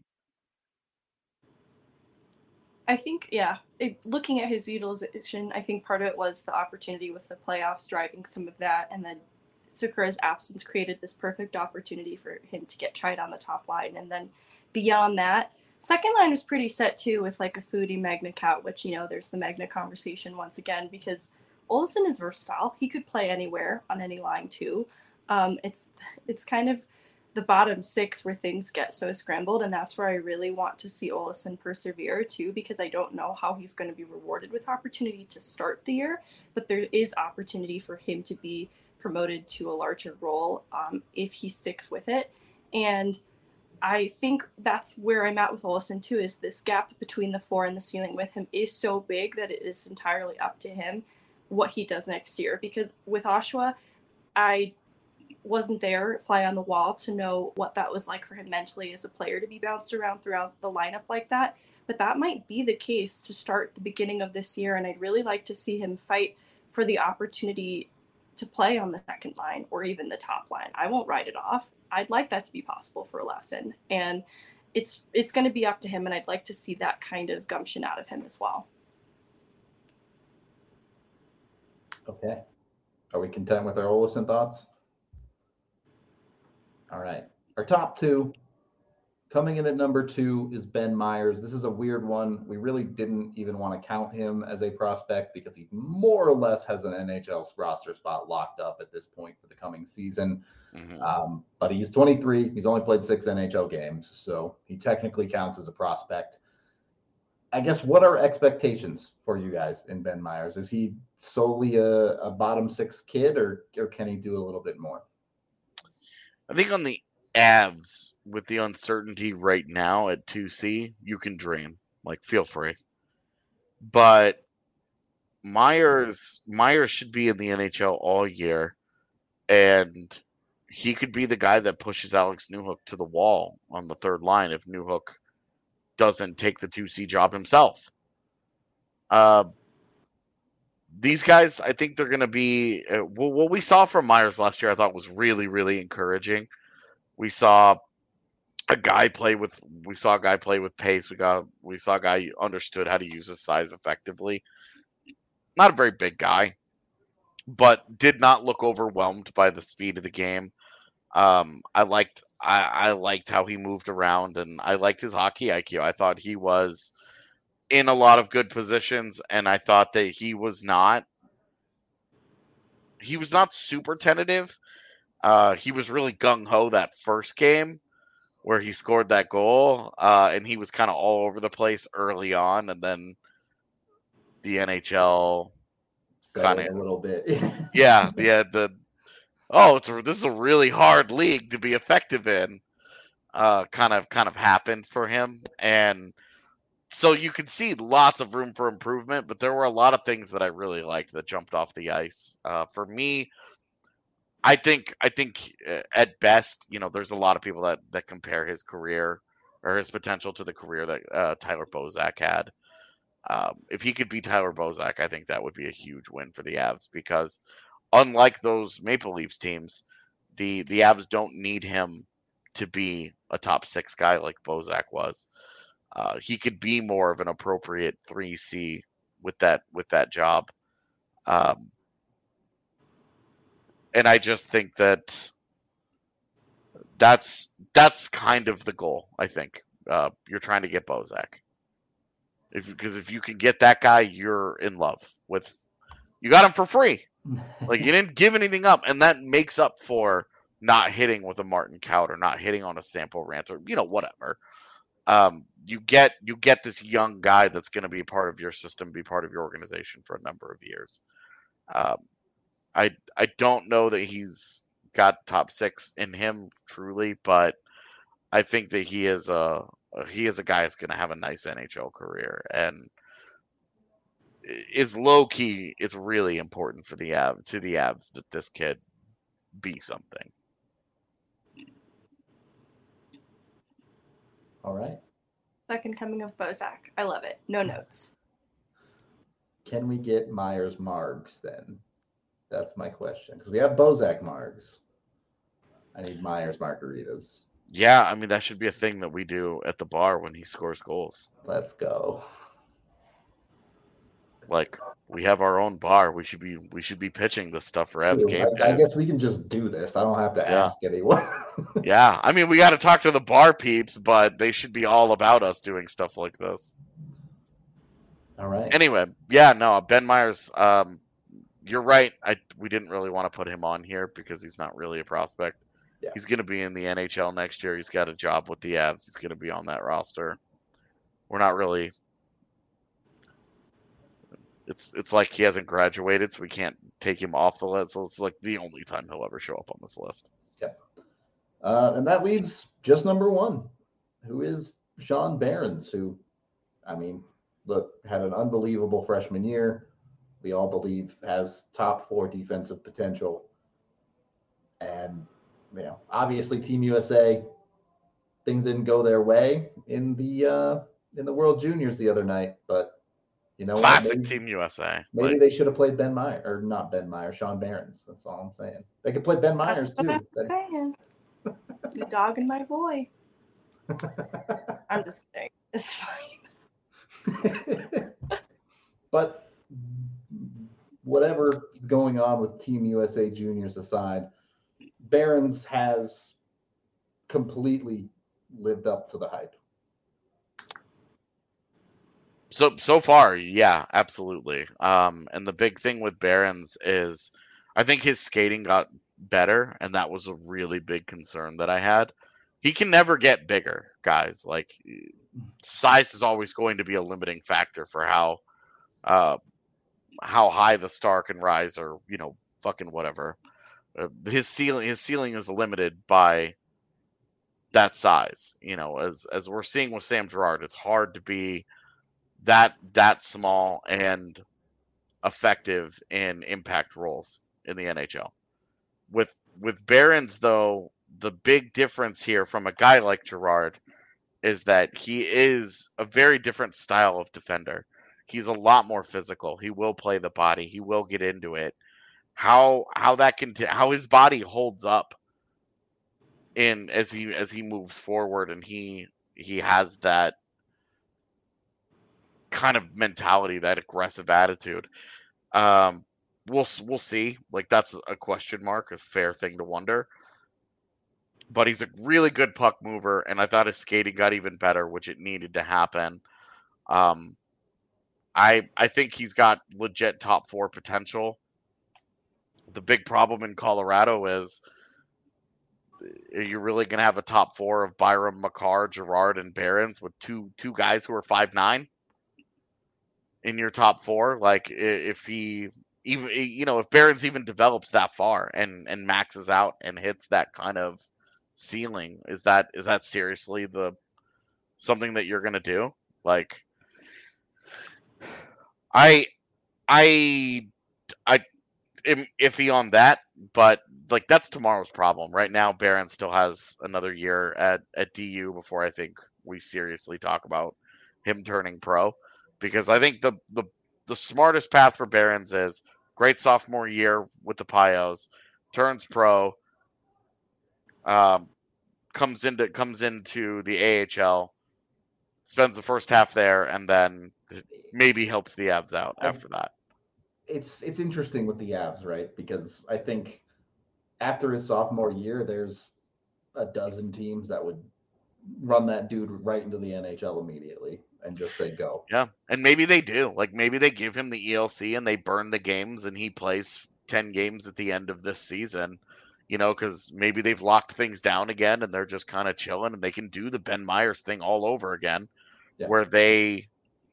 I think, yeah, it, looking at his utilization, I think part of it was the opportunity with the playoffs driving some of that, and then Sakura's absence created this perfect opportunity for him to get tried on the top line. And then beyond that, second line was pretty set too with like a Foodie Magna Cat, which, you know, there's the Magna conversation once again, because Olsen is versatile. He could play anywhere on any line too. Um, it's it's kind of the bottom six where things get so scrambled, and that's where I really want to see Olsen persevere too, because I don't know how he's going to be rewarded with opportunity to start the year, but there is opportunity for him to be promoted to a larger role um, if he sticks with it. And I think that's where I'm at with Olsen too, is this gap between the floor and the ceiling with him is so big that it is entirely up to him what he does next year. Because with Oshawa, I wasn't there, fly on the wall, to know what that was like for him mentally as a player to be bounced around throughout the lineup like that. But that might be the case to start the beginning of this year, and I'd really like to see him fight for the opportunity to play on the second line or even the top line. I won't write it off. I'd like that to be possible for Olsen, and it's it's going to be up to him, and I'd like to see that kind of gumption out of him as well.
Okay. Are we content with our Olsen thoughts? All right. Our top two, coming in at number two, is Ben Meyers. This is a weird one. We really didn't even want to count him as a prospect because he more or less has an N H L roster spot locked up at this point for the coming season. Mm-hmm. Um, but he's twenty-three. He's only played six N H L games, so he technically counts as a prospect. I guess, what are expectations for you guys in Ben Meyers? Is he solely a, a bottom six kid, or, or can he do a little bit more?
I think on the Avs, with the uncertainty right now at two C, you can dream. Like, feel free. But Myers Myers should be in the N H L all year, and he could be the guy that pushes Alex Newhook to the wall on the third line if Newhook doesn't take the two C job himself. Uh, these guys, I think they're going to be uh, – well, what we saw from Myers last year I thought was really, really encouraging. We saw a guy play with – we saw a guy play with pace. We got we saw a guy who understood how to use his size effectively. Not a very big guy, but did not look overwhelmed by the speed of the game. Um, I liked I, I liked how he moved around, and I liked his hockey I Q. I thought he was – in a lot of good positions, and I thought that he was not he was not super tentative. Uh, he was really gung-ho that first game where he scored that goal, uh, and he was kind of all over the place early on, and then the N H L
setting
kinda
a little bit.
yeah, yeah, the oh, it's a, this is a really hard league to be effective in. Uh, kind of kind of happened for him, and so you could see lots of room for improvement. But there were a lot of things that I really liked that jumped off the ice. Uh, for me, I think I think uh, at best, you know, there's a lot of people that that compare his career or his potential to the career that uh, Tyler Bozak had. Um, if he could beat Tyler Bozak, I think that would be a huge win for the Avs because unlike those Maple Leafs teams, the the Avs don't need him to be a top six guy like Bozak was. Uh, he could be more of an appropriate three C with that with that job. Um, and I just think that that's that's kind of the goal. I think uh, you're trying to get Bozak. If because if you can get that guy, you're in love with. You got him for free. Like you didn't give anything up, and that makes up for not hitting with a Martin Kaut or not hitting on a Stampo Rant or you know whatever. Um, you get you get this young guy that's going to be part of your system, be part of your organization for a number of years. Um, I I don't know that he's got top six in him truly, but I think that he is a he is a guy that's going to have a nice N H L career and is low key. It's really important for the Avs to the Avs that this kid be something.
All right.
Second coming of Bozak. I love it. No notes.
Can we get Myers Margs then? That's my question. Because we have Bozak Margs. I need Myers margaritas.
Yeah, I mean that should be a thing that we do at the bar when he scores goals.
Let's go.
Like we have our own bar. We should be we should be pitching this stuff for Avs game
I, I
days.
guess we can just do this. I don't have to
Yeah.
ask anyone.
Yeah, I mean we got to talk to the bar peeps, but they should be all about us doing stuff like this.
All right.
Anyway, yeah, no, Ben Myers. Um, you're right. I we didn't really want to put him on here because he's not really a prospect.
Yeah.
He's going to be in the N H L next year. He's got a job with the Avs. He's going to be on that roster. We're not really. It's it's like he hasn't graduated, so we can't take him off the list. So it's like the only time he'll ever show up on this list.
Yep. Uh, and that leaves just number one, who is Sean Behrens, who, I mean, look, had an unbelievable freshman year. We all believe has top four defensive potential. And, you know, obviously Team U S A, things didn't go their way in the uh, in the World Juniors the other night, but you know,
Classic
maybe,
Team U S A.
Maybe
like,
they should have played Ben Myers, or not Ben Myers, Sean Behrens. That's all I'm saying. They could play Ben Myers
That's what
too.
I'm saying. The dog and my boy. I'm just kidding. It's fine.
But whatever is going on with Team U S A Juniors aside, Behrens has completely lived up to the hype.
So so far, yeah, absolutely. Um, and the big thing with Behrens is, I think his skating got better, and that was a really big concern that I had. He can never get bigger, guys. Like size is always going to be a limiting factor for how, uh, how high the star can rise, or you know, fucking whatever. Uh, his ceiling, his ceiling is limited by that size. You know, as as we're seeing with Sam Girard, it's hard to be that that small and effective in impact roles in the N H L. With with Behrens, though, the big difference here from a guy like Girard is that he is a very different style of defender. He's a lot more physical. He will play the body. He will get into it. How how that can how his body holds up in as he as he moves forward, and he he has that kind of mentality, that aggressive attitude. Um, we'll we'll see. Like that's a question mark, a fair thing to wonder. But he's a really good puck mover, and I thought his skating got even better, which it needed to happen. Um, I I think he's got legit top four potential. The big problem in Colorado is, are you really going to have a top four of Byram, Makar, Girard, and Behrens with two two guys who are five nine in your top four? Like if he even you know if Barons even develops that far and and maxes out and hits that kind of ceiling, is that is that seriously the something that you're gonna do? Like, I I I am iffy on that, but like that's tomorrow's problem. Right now, Barron still has another year at at D U before I think we seriously talk about him turning pro, because I think the the the smartest path for Barons is great sophomore year with the Pios, turns pro, um, comes into comes into the A H L, spends the first half there, and then maybe helps the Avs out
I,
after that.
It's it's interesting with the Avs, right? Because I think after his sophomore year, there's a dozen teams that would run that dude right into the N H L immediately and just say go.
Yeah, and maybe they do. Like maybe they give him the E L C and they burn the games and he plays ten games at the end of this season. You know, because maybe they've locked things down again and they're just kind of chilling and they can do the Ben Myers thing all over again, yeah. where they,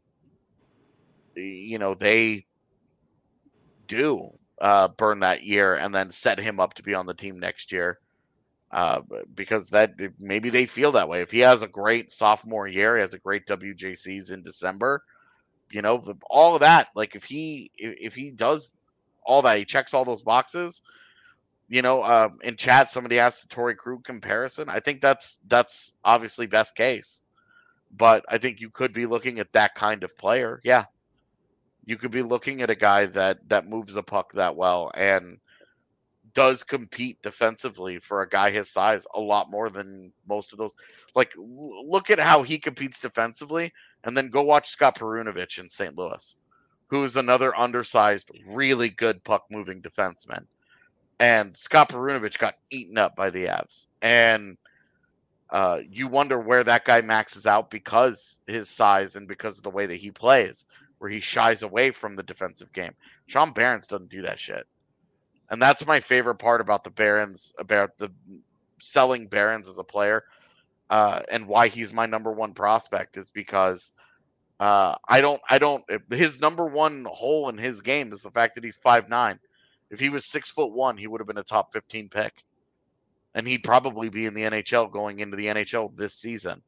you know, they do uh, burn that year and then set him up to be on the team next year. Uh, because that maybe they feel that way. If he has a great sophomore year, he has a great W J Cs in December, you know, all of that. Like if he if he does all that, he checks all those boxes. You know, uh, in chat, somebody asked the Torrey Krug comparison. I think that's that's obviously best case, but I think you could be looking at that kind of player. Yeah, you could be looking at a guy that that moves the puck that well and does compete defensively for a guy his size a lot more than most of those. Like, look at how he competes defensively, and then go watch Scott Perunovich in Saint Louis, who's another undersized, really good puck-moving defenseman. And Scott Perunovich got eaten up by the Avs. And uh, you wonder where that guy maxes out because his size and because of the way that he plays, where he shies away from the defensive game. Sean Barons doesn't do that shit. And that's my favorite part about the Barons, about the selling Barons as a player, uh, and why he's my number one prospect is because uh, I don't, I don't. His number one hole in his game is the fact that he's five nine. If he was six foot one, he would have been a top fifteen pick, and he'd probably be in the N H L going into the N H L this season.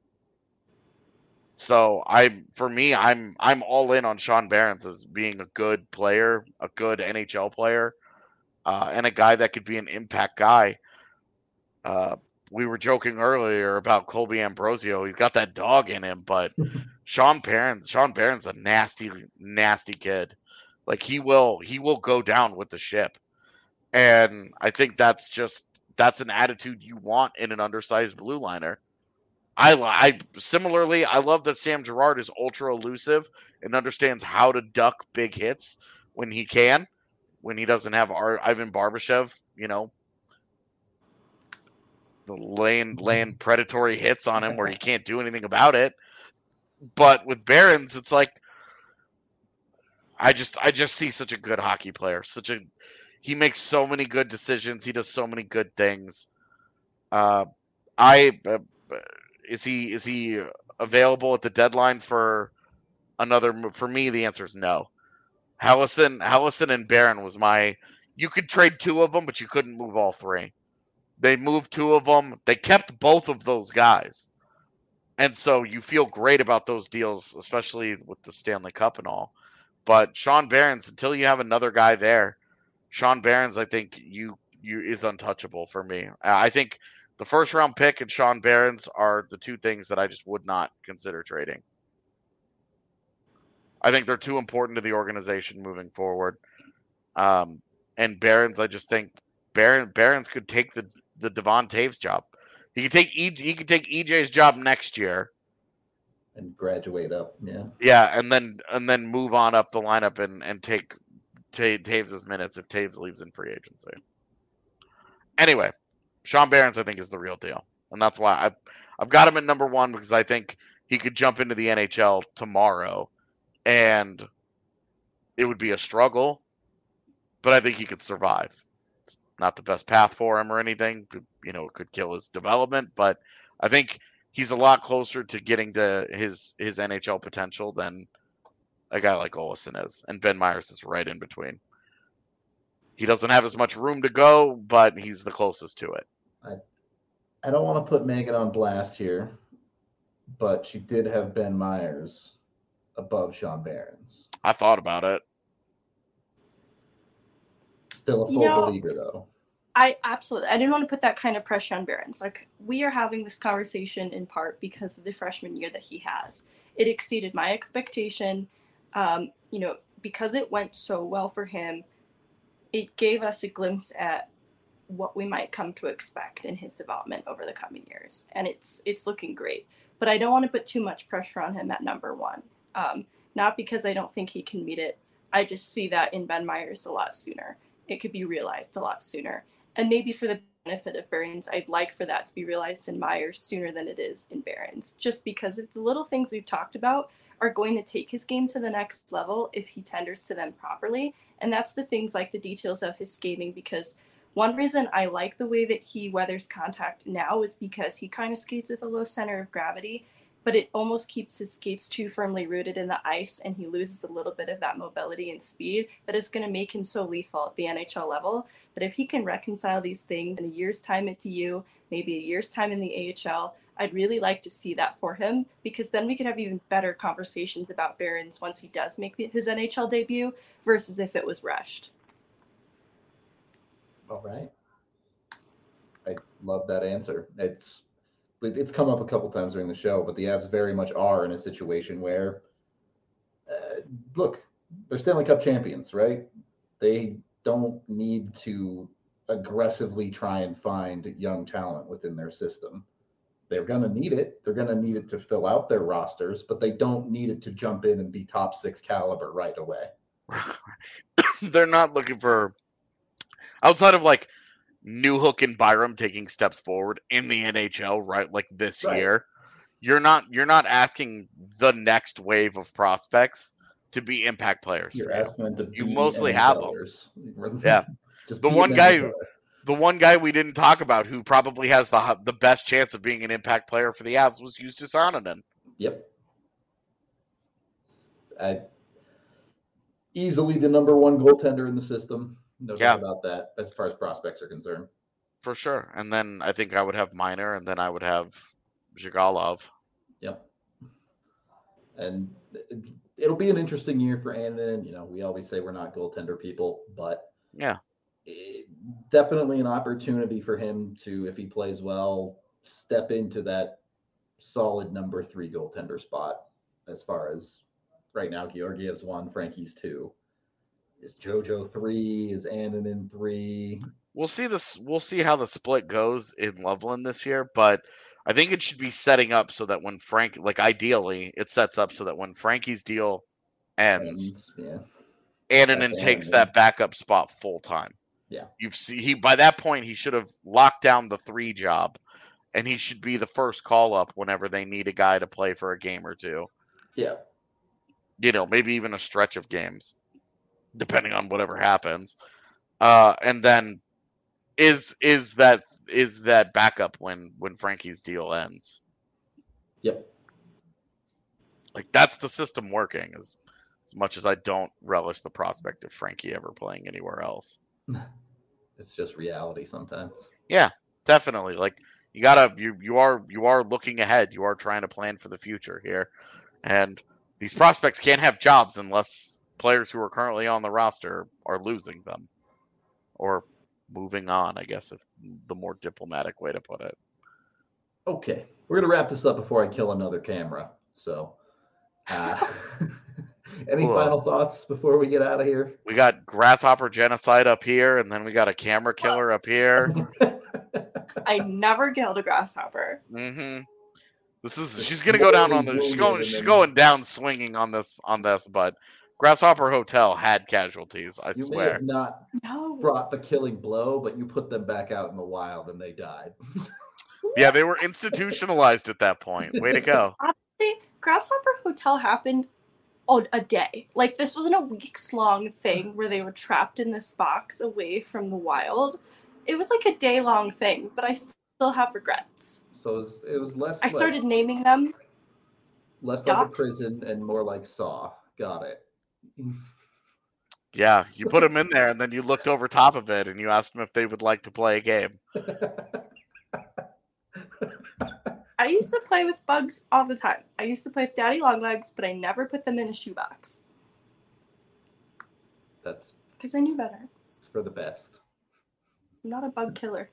So I, for me, I'm I'm all in on Sean Barons as being a good player, a good N H L player. Uh, and a guy that could be an impact guy. Uh, we were joking earlier about Colby Ambrosio. He's got that dog in him, but Sean Barons, Sean Barons, a nasty, nasty kid. Like he will, he will go down with the ship. And I think that's just that's an attitude you want in an undersized blue liner. I, I similarly, I love that Sam Girard is ultra elusive and understands how to duck big hits when he can. When he doesn't have our, Ivan Barbashev, you know, the laying, laying predatory hits on him where he can't do anything about it. But with Barons, it's like, I just, I just see such a good hockey player. Such a, he makes so many good decisions. He does so many good things. Uh, I, uh, is he, is he available at the deadline for another move? For me, the answer is no. Helleson, Helleson and Barron was my. You could trade two of them, but you couldn't move all three. They moved two of them. They kept both of those guys, and so you feel great about those deals, especially with the Stanley Cup and all. But Sean Barons, until you have another guy there, Sean Barons, I think you you is untouchable for me. I think the first round pick and Sean Barons are the two things that I just would not consider trading. I think they're too important to the organization moving forward. Um, and Barons, I just think Baron, Barons could take the, the Devon Taves job. He could take e, he could take E J's job next year
and graduate up. Yeah,
yeah, and then and then move on up the lineup and and take take Taves' minutes if Taves leaves in free agency. Anyway, Sean Barons, I think, is the real deal, and that's why I've I've got him at number one because I think he could jump into the N H L tomorrow. And it would be a struggle, but I think he could survive. It's not the best path for him or anything. You know, it could kill his development, but I think he's a lot closer to getting to his, his N H L potential than a guy like Olsen is. And Ben Myers is right in between. He doesn't have as much room to go, but he's the closest to it.
I, I don't want to put Megan on blast here, but she did have Ben Myers above Sean Behrens.
I thought about it.
Still a full
You know,
believer, though.
I absolutely. I didn't want to put that kind of pressure on Behrens. Like, we are having this conversation in part because of the freshman year that he has. It exceeded my expectation. Um, you know, because it went so well for him, it gave us a glimpse at what we might come to expect in his development over the coming years. And it's it's looking great. But I don't want to put too much pressure on him at number one. Um, not because I don't think he can meet it. I just see that in Ben Myers a lot sooner. It could be realized a lot sooner. And maybe for the benefit of Behrens, I'd like for that to be realized in Myers sooner than it is in Behrens, just because of the little things we've talked about are going to take his game to the next level if he tenders to them properly. And that's the things like the details of his skating, because one reason I like the way that he weathers contact now is because he kind of skates with a low center of gravity, but it almost keeps his skates too firmly rooted in the ice, and he loses a little bit of that mobility and speed that is going to make him so lethal at the N H L level. But if he can reconcile these things in a year's time at D U, maybe a year's time in the A H L, I'd really like to see that for him, because then we could have even better conversations about Behrens once he does make the, his N H L debut versus if it was rushed.
All right. I love that answer. It's it's come up a couple times during the show, but the Avs very much are in a situation where, uh, look, they're Stanley Cup champions, right? They don't need to aggressively try and find young talent within their system. They're going to need it. They're going to need it to fill out their rosters, but they don't need it to jump in and be top six caliber right away.
They're not looking for, outside of like Newhook and Byram taking steps forward in the N H L, right? Like this
Right.
year, you're not you're not asking the next wave of prospects to be impact players.
You're
for you.
asking them to
You
be
mostly have them.
NHLers.
Yeah.
Just
The
be
one
an
guy
N H L er.
The one guy we didn't talk about who probably has the the best chance of being an impact player for the Avs was Justus Anonen.
Yep. I, easily the number one goaltender in the system. No
Yeah.
doubt about that, as far as prospects are concerned.
For sure. And then I think I would have Minor, and then I would have Zhigalov.
Yep. And it, it'll be an interesting year for Annan. You know, we always say we're not goaltender people, but
Yeah.
it, definitely an opportunity for him to, if he plays well, step into that solid number three goaltender spot. As far as right now, Georgiev's one, Frankie's two. Is JoJo three? Is Annan three?
We'll see this. We'll see how the split goes in Loveland this year, but I think it should be setting up so that when Frank, like ideally, it sets up so that when Frankie's deal ends,
And, yeah.
Annanen
That's
takes
Annanen.
that backup spot full time.
Yeah.
You've seen he by that point he should have locked down the three job, and he should be the first call up whenever they need a guy to play for a game or two.
Yeah.
You know, maybe even a stretch of games, depending on whatever happens. Uh, and then is is that is that backup when when Frankie's deal ends?
Yep.
Like that's the system working. As as much as I don't relish the prospect of Frankie ever playing anywhere else.
It's just reality sometimes.
Yeah, definitely. Like you gotta you you are you are looking ahead. You are trying to plan for the future here, and these prospects can't have jobs unless players who are currently on the roster are losing them or moving on, I guess, if the more diplomatic way to put it.
Okay, we're gonna wrap this up before I kill another camera. So, uh, any
Cool.
final thoughts before we get out of here?
We got grasshopper genocide up here, and then we got a camera killer up here.
I never killed a grasshopper.
Mm-hmm. This is she's gonna go down on the she's going she's going down swinging on this on this, but Grasshopper Hotel had casualties. I
You may
swear.
have not
No.
brought the killing blow, but you put them back out in the wild and they died.
Yeah, they were institutionalized at that point. Way to go.
Honestly, Grasshopper Hotel happened on a day. Like, this wasn't a weeks long thing where they were trapped in this box away from the wild. It was like a day long thing, but I still have regrets.
So it was, it was less.
I started naming them.
like, less like
Dot.
a prison and more like Saw. Got it.
Yeah, you put them in there, and then you looked over top of it, and you asked them if they would like to play a game.
I used to play with bugs all the time. I used to play with daddy longlegs, but I never put them in a shoebox.
That's
because I knew better.
It's for the best.
I'm not a bug killer.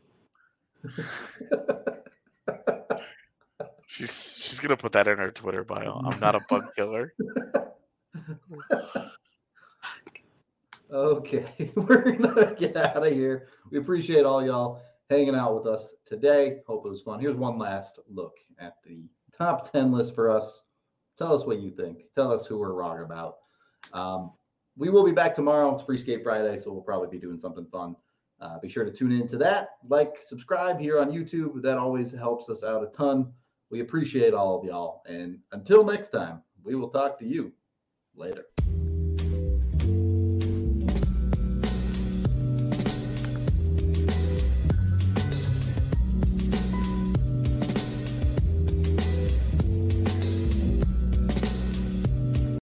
She's she's gonna put that in her Twitter bio. I'm not a bug killer.
Okay, we're gonna get out of here. We appreciate all y'all hanging out with us today. Hope it was fun. Here's one last look at the top ten list for us. Tell us what you think. Tell us who we're wrong about. Um, we will be back tomorrow. It's Free Skate Friday, so we'll probably be doing something fun. Uh, be sure to tune in to that. Like, subscribe here on YouTube. That always helps us out a ton. We appreciate all of y'all. And until next time, we will talk to you later.